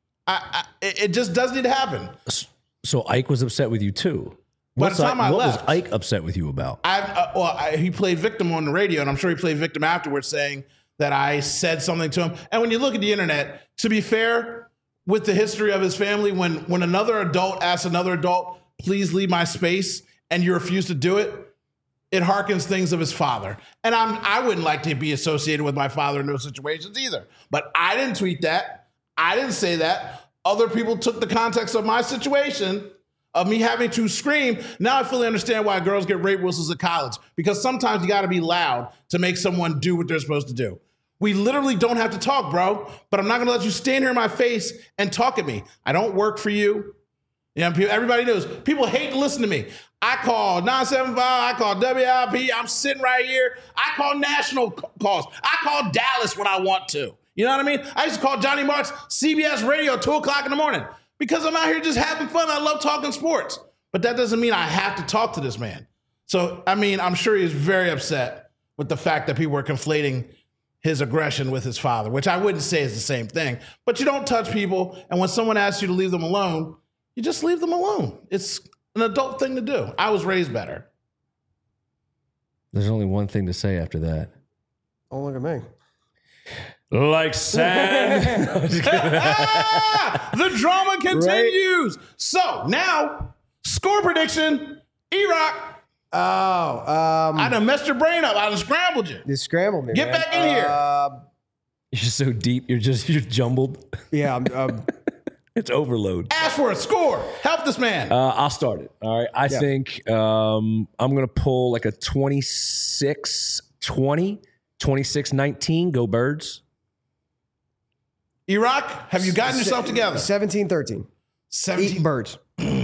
It just doesn't need to happen. So Ike was upset with you too. By the time I left, was Ike upset with you about? He played victim on the radio, and I'm sure he played victim afterwards, saying that I said something to him. And when you look at the internet, to be fair, with the history of his family, when another adult asks another adult, please leave my space, and you refuse to do it, it harkens things of his father. And I wouldn't like to be associated with my father in those situations either. But I didn't tweet that. I didn't say that. Other people took the context of my situation of me having to scream. Now I fully understand why girls get rape whistles at college, because sometimes you got to be loud to make someone do what they're supposed to do. We literally don't have to talk, bro. But I'm not going to let you stand here in my face and talk at me. I don't work for you. You know, everybody knows. People hate to listen to me. I call 975. I call WIP. I'm sitting right here. I call national calls. I call Dallas when I want to. You know what I mean? I used to call Johnny Marks CBS Radio at 2 o'clock in the morning because I'm out here just having fun. I love talking sports. But that doesn't mean I have to talk to this man. So, I mean, I'm sure he's very upset with the fact that people are conflating his aggression with his father, which I wouldn't say is the same thing. But you don't touch people. And when someone asks you to leave them alone, you just leave them alone. It's an adult thing to do. I was raised better. There's only one thing to say after that. Oh, look at me. Like sand. The drama continues. Right. So now, score prediction. E-Rock. I done messed your brain up. I done scrambled you. You scrambled me. Get back in here. You're so deep. You're jumbled. Yeah, I'm it's overload. Ask for a score. Help this man. I'll start it. All right. I think I'm going to pull like a 26-20, 26-19. Go Birds. E-Rock, have you gotten yourself together? 17-13. 17 Birds.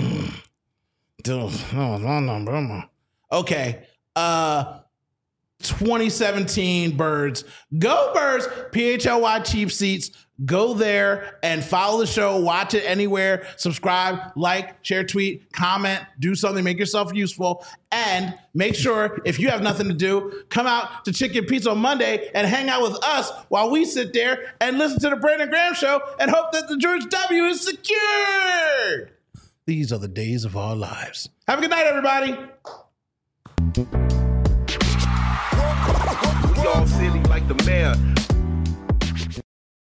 Okay. 2017 Birds. Go Birds. PHLY Cheap Seats. Go there and follow the show. Watch it anywhere. Subscribe, like, share, tweet, comment, do something, make yourself useful. And make sure, if you have nothing to do, come out to Chicken Pizza on Monday and hang out with us while we sit there and listen to the Brandon Graham Show and hope that the George W is secured. These are the days of our lives. Have a good night, everybody. We all silly like the mayor.